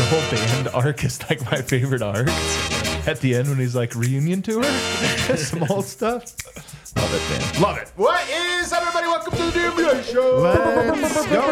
whole band arc is like my favorite arc. At the end when he's like reunion tour, some old stuff. Love it, man. Love it. What is up, everybody? Welcome to the DMVR Show. Let's go.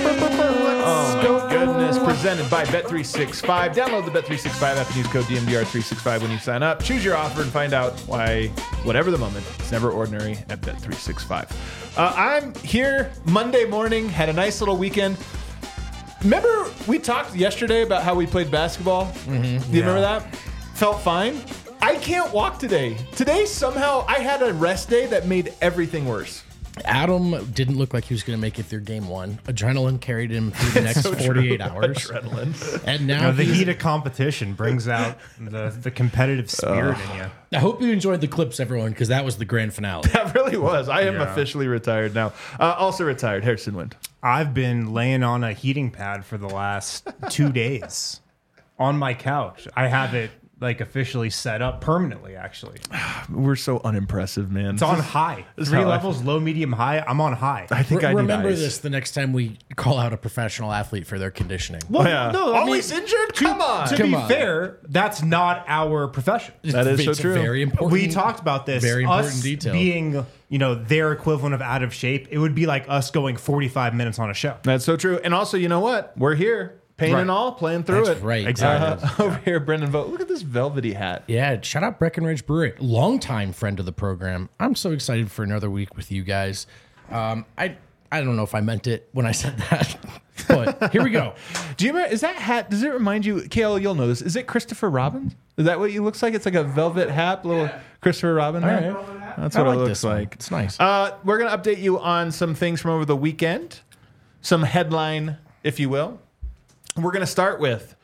Oh, my goodness. Presented by Bet365. Download the Bet365 app and use code DMVR365 when you sign up. Choose your offer and find out why, whatever the moment, it's never ordinary at Bet365. I'm here Monday morning. Had a nice little weekend. Remember we talked yesterday about how we played basketball? Mm-hmm. Do you remember that? Felt fine. I can't walk today. Today, somehow, I had a rest day that made everything worse. Adam didn't look like he was going to make it through game one. Adrenaline carried him through the next 48 hours. Adrenaline. And now the heat of competition brings out the competitive spirit in you. I hope you enjoyed the clips, everyone, because that was the grand finale. That really was. I am officially retired now. Also retired, Harrison Wind. I've been laying on a heating pad for the last 2 days on my couch. I have it like officially set up permanently, actually. We're so unimpressive, man. It's on high. 3 levels, low, medium, high. I'm on high. I think I remember need ice. this the next time we call out a professional athlete for their conditioning. Well, Yeah. no, Always injured? Come on. To be fair, that's not our profession. That is It's so true. Very important. We talked about this. Very important us detail. being, their equivalent of out of shape, it would be like us going 45 minutes on a show. That's so true. And also, you know what? We're here. Pain and all, playing through That's it. right. Exactly. Over here, Brendan Vogt. Look at this velvety hat. Yeah, shout out Breckenridge Brewery, longtime friend of the program. I'm so excited for another week with you guys. I don't know if I meant it when I said that, but here we go. Do you remember, is that hat, does it remind you, Kale, you'll know this, is it Christopher Robin? Is that what he looks like? It's like a velvet hat, little Christopher Robin hat? All right. That's I what like it looks this one. like. It's nice. We're going to update you on some things from over the weekend, some headline, if you will. We're going to start with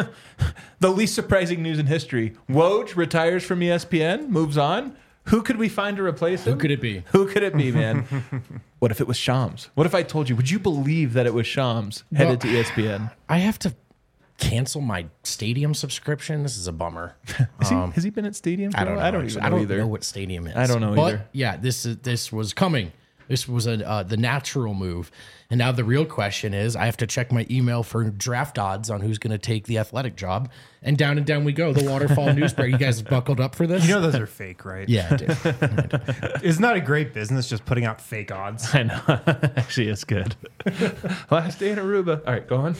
the least surprising news in history. Woj retires from ESPN, moves on. Who could we find to replace him? Who could it be? Who could it be, man? What if it was Shams? What if I told you? Would you believe that it was Shams headed to ESPN? I have to cancel my stadium subscription. This is a bummer. Has he been at stadiums? I don't know. I don't even know either. know what stadium is. I don't know but either. Yeah, this was coming. This was the natural move. And now the real question is, I have to check my email for draft odds on who's going to take the athletic job. And down we go. The Waterfall Newspaper. You guys buckled up for this? You know those are fake, right? Yeah, I do. Isn't that a great business, just putting out fake odds? I know. Actually, it's good. Last day in Aruba. All right, go on.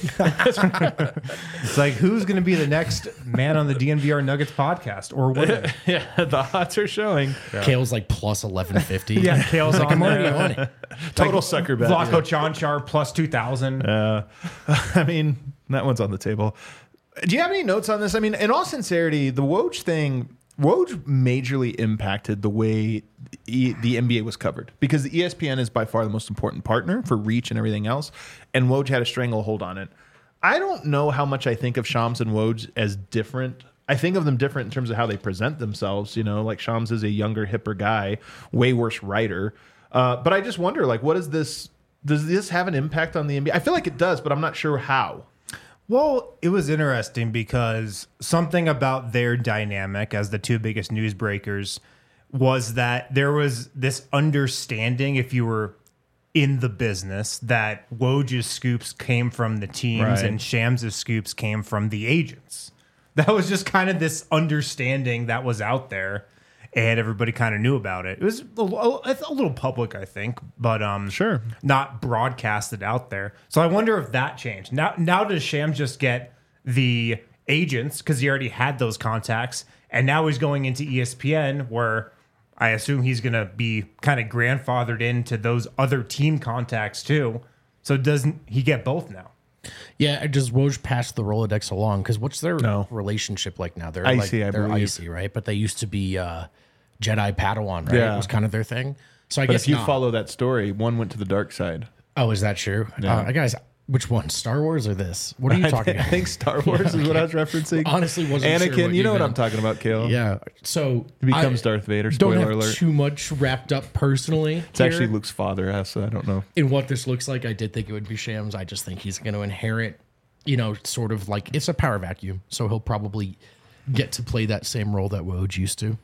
It's like, who's going to be the next man on the DNVR Nuggets podcast or woman? Yeah, the odds are showing. Kale's like plus 1150. Yeah, Kale's like, on I'm already there. on it. Total sucker bet. Vlaco Chanchar plus 2,000. I mean, that one's on the table. Do you have any notes on this? I mean, in all sincerity, the Woj thing, Woj majorly impacted the way the NBA was covered because the ESPN is by far the most important partner for reach and everything else, and Woj had a stranglehold on it. I don't know how much I think of Shams and Woj as different. I think of them different in terms of how they present themselves. Like Shams is a younger, hipper guy, way worse writer. But I just wonder, like, what is this? Does this have an impact on the NBA? I feel like it does, but I'm not sure how. Well, it was interesting because something about their dynamic as the two biggest newsbreakers was that there was this understanding, if you were in the business, that Woj's scoops came from the teams Right. and Shams' scoops came from the agents. That was just kind of this understanding that was out there, and everybody kind of knew about it. It was a little public, I think, but Sure. not broadcasted out there. So I wonder if that changed. Now does Shams just get the agents because he already had those contacts, and now he's going into ESPN where I assume he's going to be kind of grandfathered into those other team contacts too. So doesn't he get both now? Yeah, does Woj pass the Rolodex along? Because what's their No. relationship like now? They're Icy, I they're believe. icy, right? But they used to be Jedi Padawan, right? Yeah. It was kind of their thing. So I But guess if you not. follow that story, one went to the dark side. Oh, is that true? Yeah. Guys, which one? Star Wars or this? What are you talking I about? think Star Wars is what I was referencing. Honestly, wasn't Anakin, sure what you know what meant. I'm talking about, Kale. Yeah. So He becomes Darth Vader. Don't Spoiler have alert. too much wrapped up personally. It's actually Luke's father, so I don't know. In what this looks like. I did think it would be Shams. I just think he's going to inherit, sort of like it's a power vacuum. So he'll probably get to play that same role that Woj used to.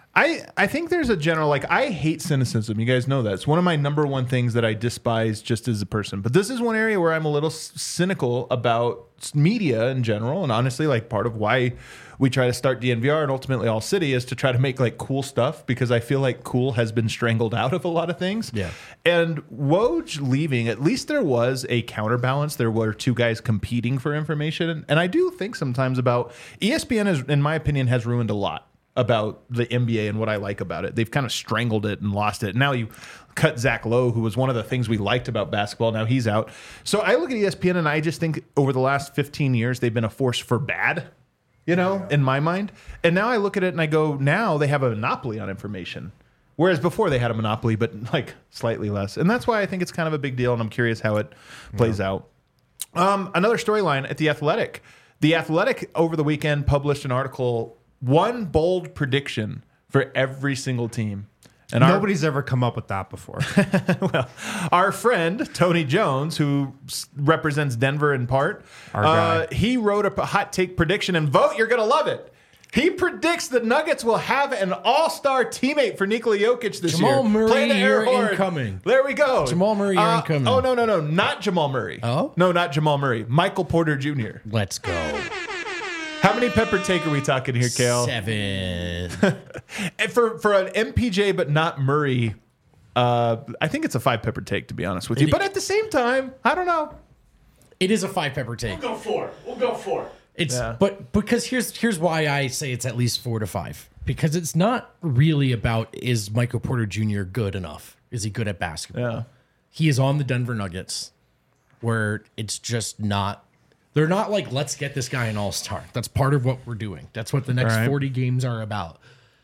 I think there's a general, I hate cynicism. You guys know that. It's one of my number one things that I despise just as a person. But this is one area where I'm a little cynical about media in general, and honestly, like part of why we try to start DNVR and ultimately All City is to try to make like cool stuff, because I feel like cool has been strangled out of a lot of things. Yeah. And Woj leaving, at least there was a counterbalance. There were two guys competing for information. And I do think sometimes about ESPN is, in my opinion, has ruined a lot about the NBA and what I like about it. They've kind of strangled it and lost it. Now you cut Zach Lowe, who was one of the things we liked about basketball. Now he's out. So I look at ESPN and I just think over the last 15 years, they've been a force for bad, you know, in my mind. And now I look at it and I go, now they have a monopoly on information. Whereas before they had a monopoly, but like slightly less. And that's why I think it's kind of a big deal. And I'm curious how it plays out. Another storyline at The Athletic. The Athletic over the weekend published an article, one bold prediction for every single team. And Nobody's ever come up with that before. well, our friend Tony Jones, who represents Denver in part, Our guy. he wrote a hot take prediction, and vote, you're going to love it. He predicts the Nuggets will have an all-star teammate for Nikola Jokic this year. Jamal Murray, Play the air you're horn. incoming. There we go. Jamal Murray, you're incoming. Oh, no. Not Jamal Murray. Oh? No, not Jamal Murray. Michael Porter Jr. Let's go. How many pepper take are we talking here, Kale? 7. And for an MPJ, but not Murray, I think it's a 5 pepper take, to be honest with you. But at the same time, I don't know. It is a 5 pepper take. We'll go 4. It's Yeah. but because here's why I say it's at least 4 to 5. Because it's not really about, is Michael Porter Jr. good enough? Is he good at basketball? Yeah. He is on the Denver Nuggets, where it's just not. They're not like, let's get this guy an all-star. That's part of what we're doing. That's what the next All right. 40 games are about.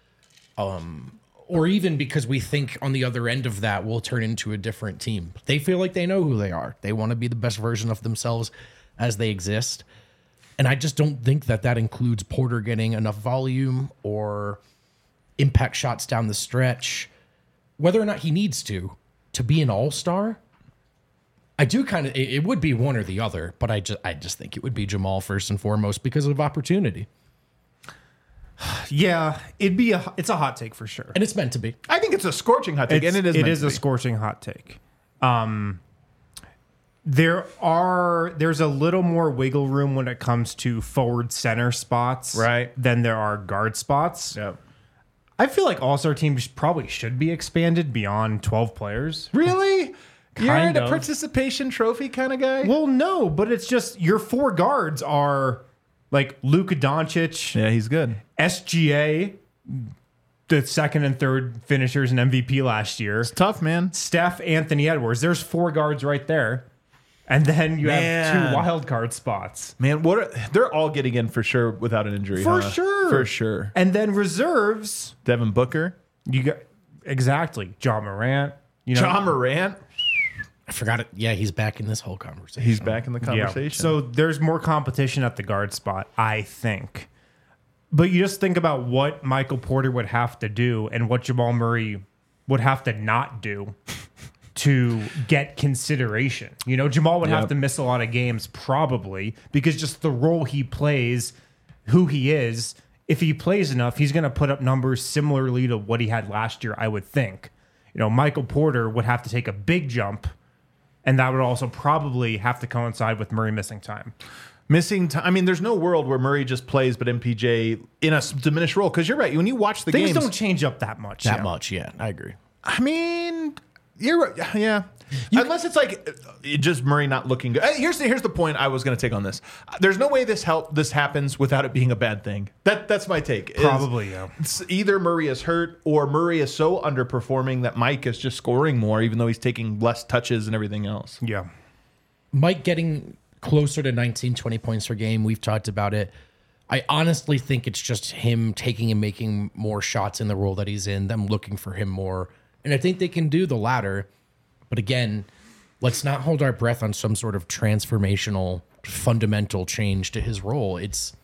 Or even because we think on the other end of that we'll turn into a different team. They feel like they know who they are. They want to be the best version of themselves as they exist. And I just don't think that includes Porter getting enough volume or impact shots down the stretch. Whether or not he needs to be an all-star, I do kind of. It would be one or the other, but I just think it would be Jamal first and foremost because of opportunity, Yeah, it's a hot take for sure. and it's meant to be. I think it's a scorching hot take, and it is. It meant is to a be. scorching hot take. There's a little more wiggle room when it comes to forward center spots, Right. than there are guard spots. Yeah. I feel like all-star teams probably should be expanded beyond 12 players. Really? You're Kind a of. participation trophy kind of guy? Well, no, but it's just your 4 guards are like Luka Doncic, Yeah, he's good. SGA, the second and third finishers in MVP last year, Tough, man. Steph, Anthony Edwards. There's 4 guards right there. And then you have Man. 2 wild card spots. Man, they're all getting in for sure without an injury. For huh? sure. For sure. And then reserves, Devin Booker. you got exactly John Morant. You know, John Morant. I forgot it. Yeah, he's back in this whole conversation. He's back in the yeah. conversation. So there's more competition at the guard spot, I think. But you just think about what Michael Porter would have to do and what Jamal Murray would have to not do to get consideration. You know, Jamal would have Yep. to miss a lot of games probably because just the role he plays, who he is, if he plays enough, he's going to put up numbers similarly to what he had last year, I would think. You know, Michael Porter would have to take a big jump, and that would also probably have to coincide with Murray missing time. Missing time. I mean, there's no world where Murray just plays, but MPJ in a diminished role. Because you're right. When you watch the Things games, don't change up that much. that much. Yeah, I agree. I mean, you're right. Yeah. Unless it's like just Murray not looking good. Here's the point I was going to take on this. There's no way this happens without it being a bad thing. That's my take. is Probably, yeah. It's either Murray is hurt or Murray is so underperforming that Mike is just scoring more, even though he's taking less touches and everything else. Yeah. Mike getting closer to 19, 20 points per game. We've talked about it. I honestly think it's just him taking and making more shots in the role that he's in, them looking for him more. And I think they can do the latter. But again, let's not hold our breath on some sort of transformational, fundamental change to his role.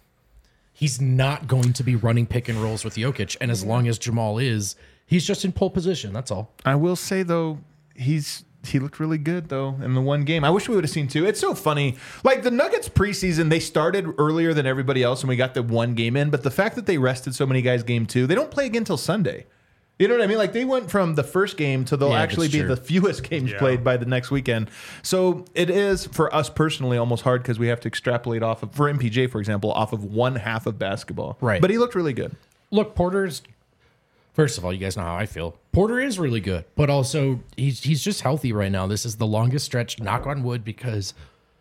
He's not going to be running pick and rolls with Jokic. And as long as Jamal is, he's just in pole position. That's all. I will say though, he looked really good though in the one game. I wish we would have seen 2. It's so funny. Like the Nuggets preseason, they started earlier than everybody else, and we got the one game in. But the fact that they rested so many guys game 2, they don't play again till Sunday. You know what I mean? Like they went from the first game to they'll Yeah, actually that's be true. the fewest games Yeah. played by the next weekend. So it is for us personally almost hard because we have to extrapolate off of, for MPJ, for example, off of one half of basketball. Right. But he looked really good. Look, Porter's. First of all, you guys know how I feel. Porter is really good, but also he's just healthy right now. This is the longest stretch, knock on wood, because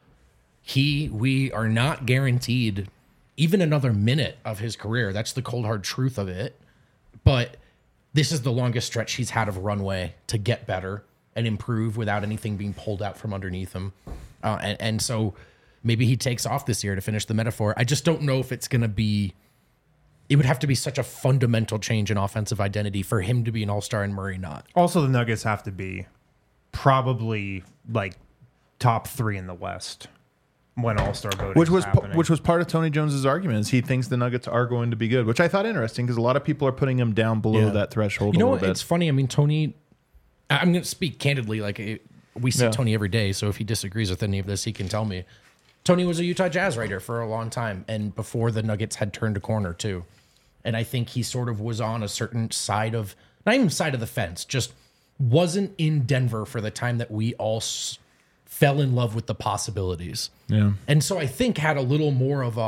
we are not guaranteed even another minute of his career. That's the cold hard truth of it. But this is the longest stretch he's had of runway to get better and improve without anything being pulled out from underneath him. And so maybe he takes off this year to finish the metaphor. I just don't know if it's going to be. It would have to be such a fundamental change in offensive identity for him to be an all-star and Murray not. Also, the Nuggets have to be probably like top 3 in the West when All-Star voting Which was happening. which was part of Tony Jones's argument. Is he thinks the Nuggets are going to be good, which I thought interesting because a lot of people are putting him down below Yeah. that threshold. You know a what? little bit. It's funny. I mean, Tony. I'm going to speak candidly. We see Yeah. Tony every day, so if he disagrees with any of this, he can tell me. Tony was a Utah Jazz writer for a long time, and before the Nuggets had turned a corner too. And I think he sort of was on a certain side of, not even side of the fence, just wasn't in Denver for the time that we all fell in love with the possibilities. Yeah. And so I think had a little more of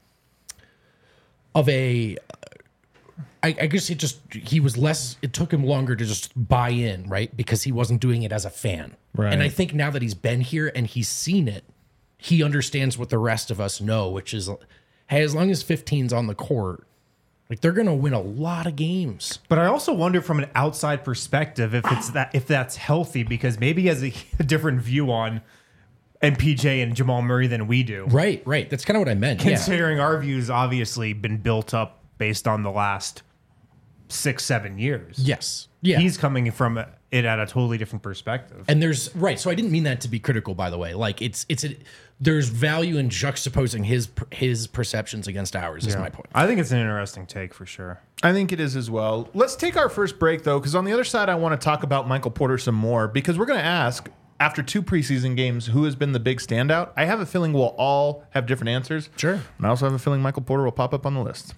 a I guess he was less, it took him longer to just buy in, right? Because he wasn't doing it as a fan. Right. And I think now that he's been here and he's seen it, he understands what the rest of us know, which is, hey, as long as 15's on the court, like they're going to win a lot of games. But I also wonder from an outside perspective if that's healthy, because maybe he has a different view on MPJ and Jamal Murray than we do. Right. That's kind of what I meant. Yeah. Considering our views obviously been built up based on the last 6-7 years. Yes. Yeah. He's coming from it at a totally different perspective. And there's right, so I didn't mean that to be critical, by the way. Like there's value in juxtaposing his perceptions against ours. Is my point. I think it's an interesting take for sure. I think it is as well. Let's take our first break, though, because on the other side, I want to talk about Michael Porter some more, because we're going to ask, after 2 preseason games, who has been the big standout. I have a feeling we'll all have different answers. Sure. And I also have a feeling Michael Porter will pop up on the list.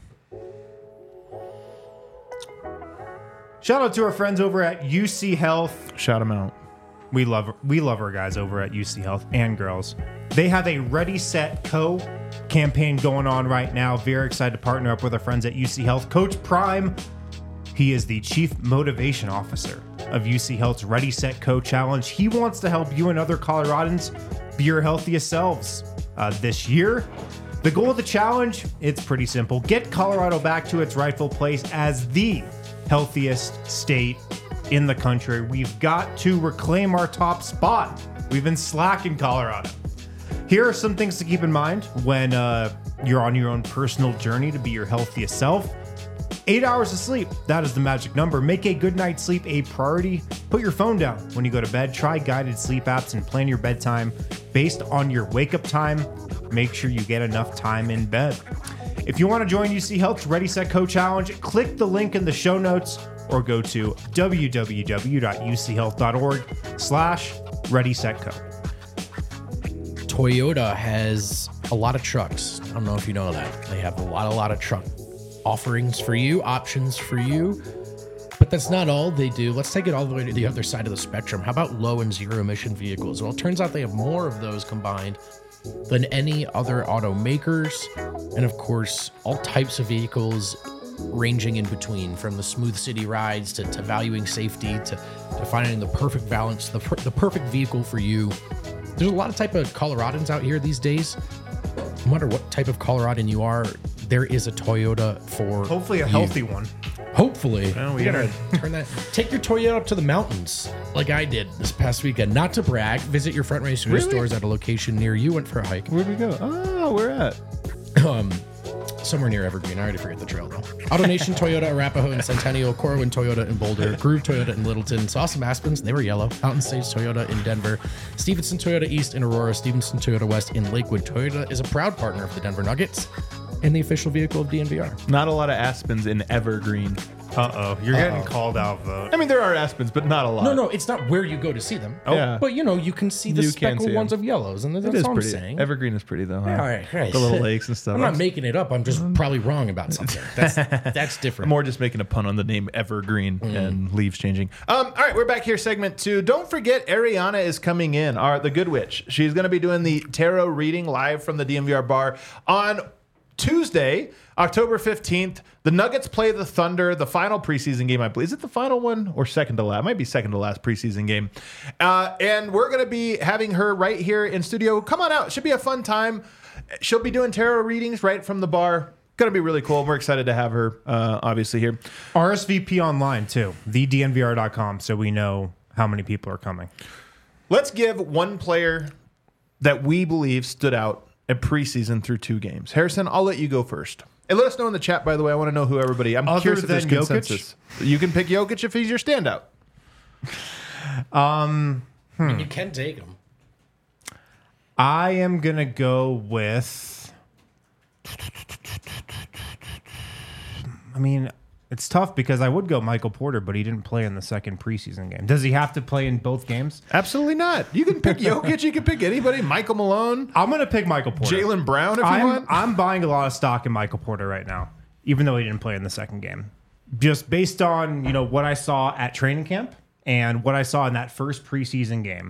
Shout out to our friends over at UC Health. Shout him out. We love our guys over at UC Health and girls. They have a Ready Set Co campaign going on right now. Very excited to partner up with our friends at UC Health. Coach Prime, he is the Chief Motivation Officer of UC Health's Ready Set Co Challenge. He wants to help you and other Coloradans be your healthiest selves this year. The goal of the challenge, it's pretty simple. Get Colorado back to its rightful place as the healthiest state in the country. We've got to reclaim our top spot. We've been slack in Colorado. Here are some things to keep in mind when you're on your own personal journey to be your healthiest self. 8 hours of sleep, that is the magic number. Make a good night's sleep a priority. Put your phone down when you go to bed. Try guided sleep apps and plan your bedtime based on your wake-up time. Make sure you get enough time in bed. If you want to join UC Health's Ready Set Co Challenge, click the link in the show notes or go to www.uchealth.org/ReadySetCo. Toyota has a lot of trucks. I don't know if you know that. They have a lot of truck offerings for you, options for you. But that's not all they do. Let's take it all the way to the other side of the spectrum. How about low and zero emission vehicles? Well, it turns out they have more of those combined than any other automakers. And of course, all types of vehicles ranging in between, from the smooth city rides to valuing safety to finding the perfect balance, the perfect vehicle for you. There's a lot of type of Coloradans out here these days. No matter what type of Coloradan you are, there is a Toyota for Hopefully a you. healthy one. Hopefully. Well, We gotta turn that. Take your Toyota up to the mountains, like I did this past weekend. Not to brag. Visit your Front Range Really? stores at a location near you. Went for a hike. Where'd we go? Oh, where at? Somewhere near Evergreen. I already forget the trail though. AutoNation Toyota, Arapahoe and Centennial, Corwin Toyota in Boulder, Groove Toyota in Littleton, saw some Aspens, they were yellow. Mountain Stage Toyota in Denver, Stevenson Toyota East in Aurora, Stevenson Toyota West in Lakewood. Toyota is a proud partner of the Denver Nuggets and the official vehicle of DNVR. Not a lot of Aspens in Evergreen. You're getting called out, vote. I mean, there are Aspens, but not a lot. No, it's not where you go to see them. Yeah. But you can see the You can speckled see ones 'em. of yellows, and that's It is all I'm pretty. saying. Evergreen is pretty though. Huh? All right. The little lakes and stuff. I'm not making it up. I'm just probably wrong about something. That's different. More just making a pun on the name Evergreen and leaves changing. All right, we're back here, segment 2. Don't forget, Ariana is coming in, the Good Witch. She's going to be doing the tarot reading live from the DMVR bar on Tuesday, October 15th. The Nuggets play the Thunder, the final preseason game, I believe. Is it the final one or second to last? It might be second to last preseason game. And we're going to be having her right here in studio. Come on out. It should be a fun time. She'll be doing tarot readings right from the bar. Going to be really cool. We're excited to have her, obviously, here. RSVP online, too. TheDNVR.com, so we know how many people are coming. Let's give one player that we believe stood out at preseason through 2 games. Harrison, I'll let you go first. And let us know in the chat, by the way. I want to know who everybody. I'm Other curious if there's than Jokic? consensus. You can pick Jokic if he's your standout. You can take them. I am going to go with... I mean, it's tough because I would go Michael Porter, but he didn't play in the second preseason game. Does he have to play in both games? Absolutely not. You can pick Jokic. You can pick anybody. Michael Malone, I'm going to pick Michael Porter. Jaylen Brown, if you want. I'm buying a lot of stock in Michael Porter right now, even though he didn't play in the second game. Just based on, what I saw at training camp and what I saw in that first preseason game.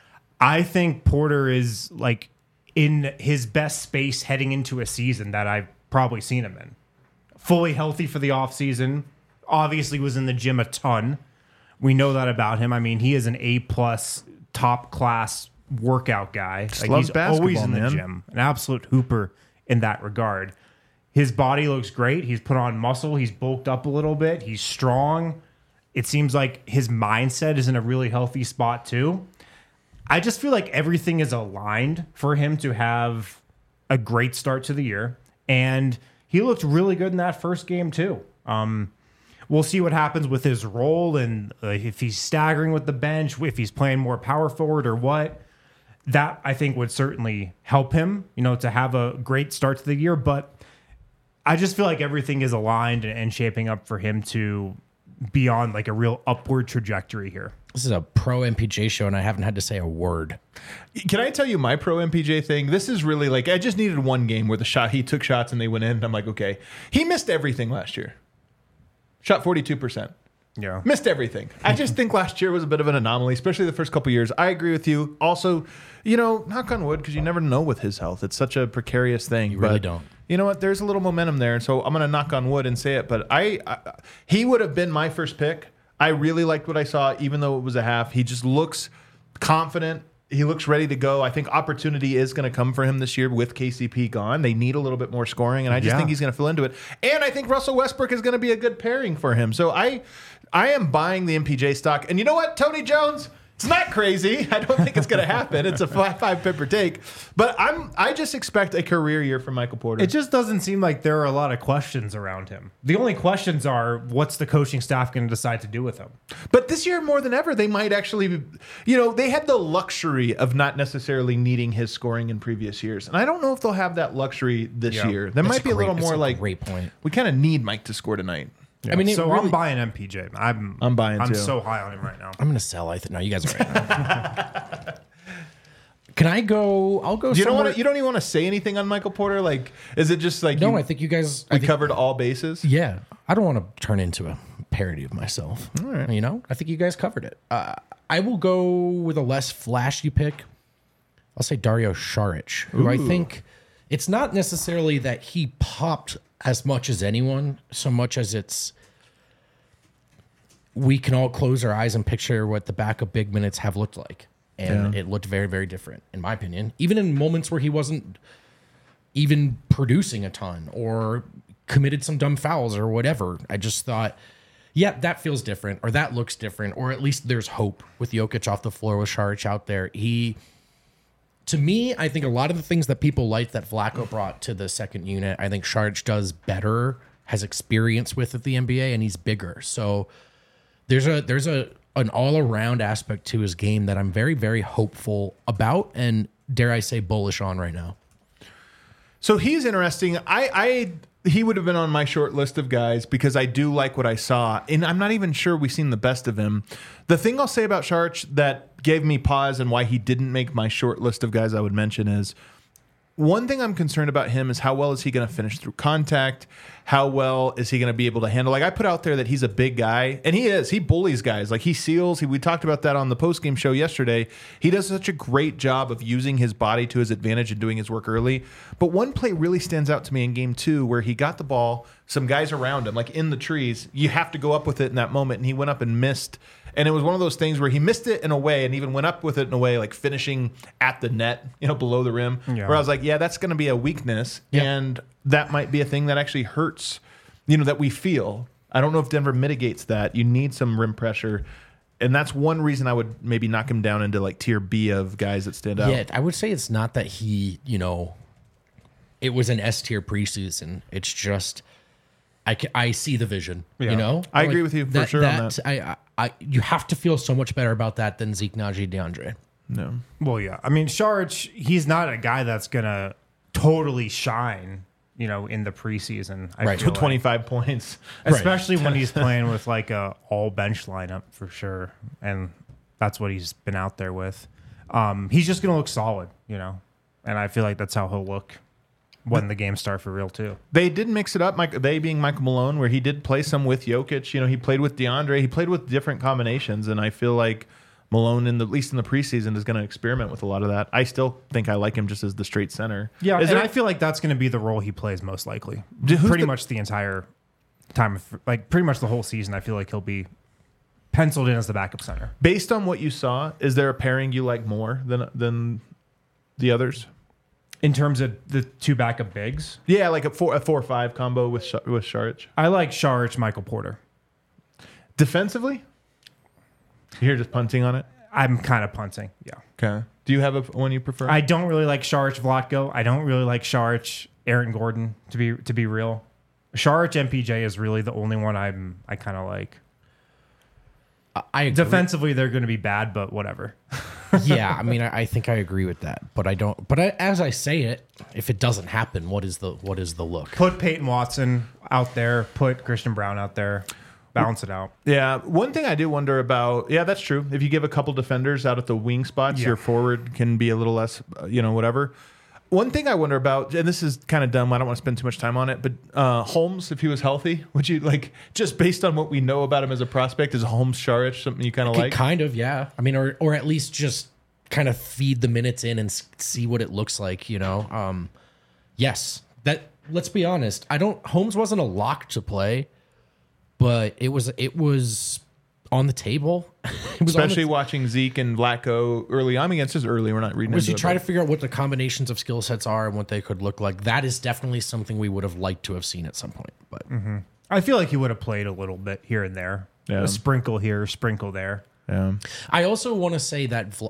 I think Porter is like in his best space heading into a season that I've probably seen him in. Fully healthy for the offseason. Obviously was in the gym a ton. We know that about him. I mean, he is an A-plus top class workout guy. Like, loves he's always basketball, in the man. gym. An absolute hooper in that regard. His body looks great. He's put on muscle. He's bulked up a little bit. He's strong. It seems like his mindset is in a really healthy spot too. I just feel like everything is aligned for him to have a great start to the year. And he looked really good in that first game too. We'll see what happens with his role and if he's staggering with the bench, if he's playing more power forward or what. That, I think, would certainly help him, to have a great start to the year. But I just feel like everything is aligned and shaping up for him to be on like a real upward trajectory here. This is a pro MPJ show, and I haven't had to say a word. Can I tell you my pro MPJ thing? This is really like, I just needed one game where he took shots and they went in. And I'm like, okay. He missed everything last year. Shot 42%. Yeah. Missed everything. I just think last year was a bit of an anomaly, especially the first couple years. I agree with you. Also, knock on wood, because you never know with his health. It's such a precarious thing. You really don't. You know what? There's a little momentum there. And so I'm going to knock on wood and say it. But he would have been my first pick. I really liked what I saw, even though it was a half. He just looks confident. He looks ready to go. I think opportunity is going to come for him this year with KCP gone. They need a little bit more scoring, and I just think he's going to fill into it. And I think Russell Westbrook is going to be a good pairing for him. So I am buying the MPJ stock. And you know what, Tony Jones? It's not crazy. I don't think it's going to happen. It's a 5 pipper take. But I just expect a career year from Michael Porter. It just doesn't seem like there are a lot of questions around him. The only questions are, what's the coaching staff going to decide to do with him? But this year, more than ever, they might actually, they had the luxury of not necessarily needing his scoring in previous years. And I don't know if they'll have that luxury this year. There might be a little more like, great point. We kind of need Mike to score tonight. Yeah. I mean, I'm buying MPJ. I'm buying I'm too. so high on him right now. I'm going to sell. No, you guys are right. Can I go? I'll go. You somewhere. don't even want to say anything on Michael Porter? Like, is it just like No, I think you guys. we covered all bases? Yeah, I don't want to turn into a parody of myself. All right. I think you guys covered it. I will go with a less flashy pick. I'll say Dario Saric, who I think it's not necessarily that he popped as much as anyone, so much as it's we can all close our eyes and picture what the backup big minutes have looked like. And it looked very, very different, in my opinion. Even in moments where he wasn't even producing a ton or committed some dumb fouls or whatever. I just thought, that feels different, or that looks different, or at least there's hope with Jokic off the floor with Saric out there. To me, I think a lot of the things that people liked that Vlatko brought to the second unit, I think Saric does better, has experience with at the NBA, and he's bigger. So there's an all-around aspect to his game that I'm very, very hopeful about and, dare I say, bullish on right now. So he's interesting. he would have been on my short list of guys because I do like what I saw. And I'm not even sure we've seen the best of him. The thing I'll say about Saric that gave me pause and why he didn't make my short list of guys I would mention is one thing I'm concerned about him is how well is he going to finish through contact? How well is he going to be able to handle? Like I put out there that he's a big guy, and he is. He bullies guys. Like he seals. We talked about that on the postgame show yesterday. He does such a great job of using his body to his advantage and doing his work early. But one play really stands out to me in game 2 where he got the ball, some guys around him, like in the trees. You have to go up with it in that moment, and he went up and missed. And it was one of those things where he missed it in a way and even went up with it in a way, like finishing at the net, below the rim. Yeah. Where I was like, yeah, that's going to be a weakness. Yep. And that might be a thing that actually hurts, that we feel. I don't know if Denver mitigates that. You need some rim pressure. And that's one reason I would maybe knock him down into like tier B of guys that stand out. Yeah, I would say it's not that he, it was an S tier preseason. It's just, I see the vision, I agree with you for sure on that. You have to feel so much better about that than Zeke, Najee, DeAndre. No. Well, yeah. I mean, Saric, he's not a guy that's going to totally shine, in the preseason. I feel 25 points. Especially when he's playing with like a all bench lineup for sure. And that's what he's been out there with. He's just going to look solid, And I feel like that's how he'll look when the games start for real too. They did mix it up, they being Michael Malone, where he did play some with Jokic. He played with DeAndre. He played with different combinations, and I feel like Malone, at least in the preseason, is going to experiment with a lot of that. I still think I like him just as the straight center. Yeah, I feel like that's going to be the role he plays most likely. Pretty much the entire time, pretty much the whole season, I feel like he'll be penciled in as the backup center. Based on what you saw, is there a pairing you like more than the others? In terms of the two backup bigs? Yeah, like a 4-5 combo with Saric. I like Saric, Michael Porter. Defensively? You're just punting on it? I'm kind of punting, yeah. Okay. Do you have one you prefer? I don't really like Saric, Vlatko. I don't really like Saric, Aaron Gordon, to be real. Saric, MPJ is really the only one I kind of like. I agree. Defensively, they're going to be bad, but whatever. Yeah, I mean, I think I agree with that, but I don't. But as I say it, if it doesn't happen, what is the look? Put Peyton Watson out there. Put Christian Brown out there. Balance it out. Yeah, one thing I do wonder about. Yeah, that's true. If you give a couple defenders out at the wing spots, your forward can be a little less, whatever. One thing I wonder about, and this is kind of dumb, I don't want to spend too much time on it, but Holmes, if he was healthy, would you just based on what we know about him as a prospect, is Holmes Saric something you kind of like? Kind of, yeah. I mean, or at least just kind of feed the minutes in and see what it looks like, Yes. Let's be honest. Holmes wasn't a lock to play, but it was on the table. Especially watching Zeke and Vlatko early on. I mean, it's just early. We're not reading into it. Try to figure out what the combinations of skill sets are and what they could look like. That is definitely something we would have liked to have seen at some point. But I feel like he would have played a little bit here and there. Yeah. A sprinkle here, sprinkle there. Yeah. I also want to say that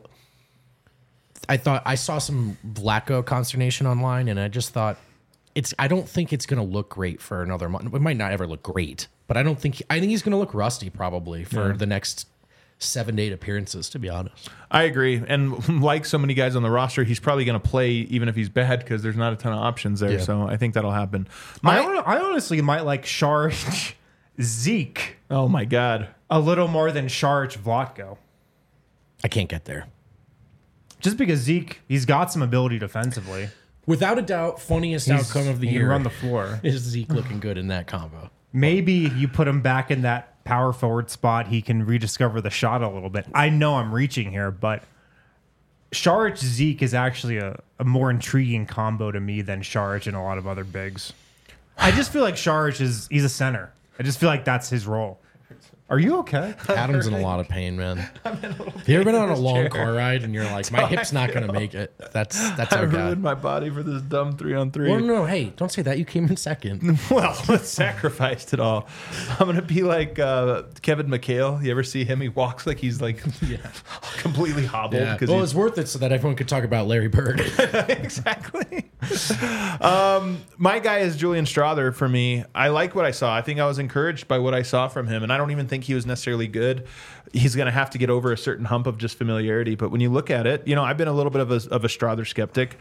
I saw some Vlatko consternation online, and I just thought I don't think it's going to look great for another month. It might not ever look great, but I think he's going to look rusty probably for the next 7 to 8 appearances, to be honest. I agree. And like so many guys on the roster, he's probably going to play even if he's bad because there's not a ton of options there. Yeah. So I think that'll happen. I honestly might like Saric, Zeke. Oh, my God. A little more than Saric, Vlatko. I can't get there. Just because Zeke, he's got some ability defensively. Without a doubt, funniest outcome of the year. Run the floor. Is Zeke looking good in that combo? Maybe you put him back in that power forward spot, he can rediscover the shot a little bit. I know I'm reaching here, but Saric Zeke is actually a more intriguing combo to me than Saric and a lot of other bigs. I just feel like Saric he's a center. I just feel like that's his role. Are you okay? Adam's in a lot of pain, man. Have you ever been on a long car ride and you're like, my hip's not going to make it? That's I ruined my body for this dumb 3-on-3. Well, no, hey, don't say that. You came in second. Well, let's sacrificed it all. I'm going to be like Kevin McHale. You ever see him? He walks like he's completely hobbled. Yeah. Well, it's worth it so that everyone could talk about Larry Bird. Exactly. My guy is Julian Strawther for me. I like what I saw. I think I was encouraged by what I saw from him, and I don't even think he was necessarily good. He's going to have to get over a certain hump of just familiarity. But when you look at it, I've been a little bit of a Strawther skeptic.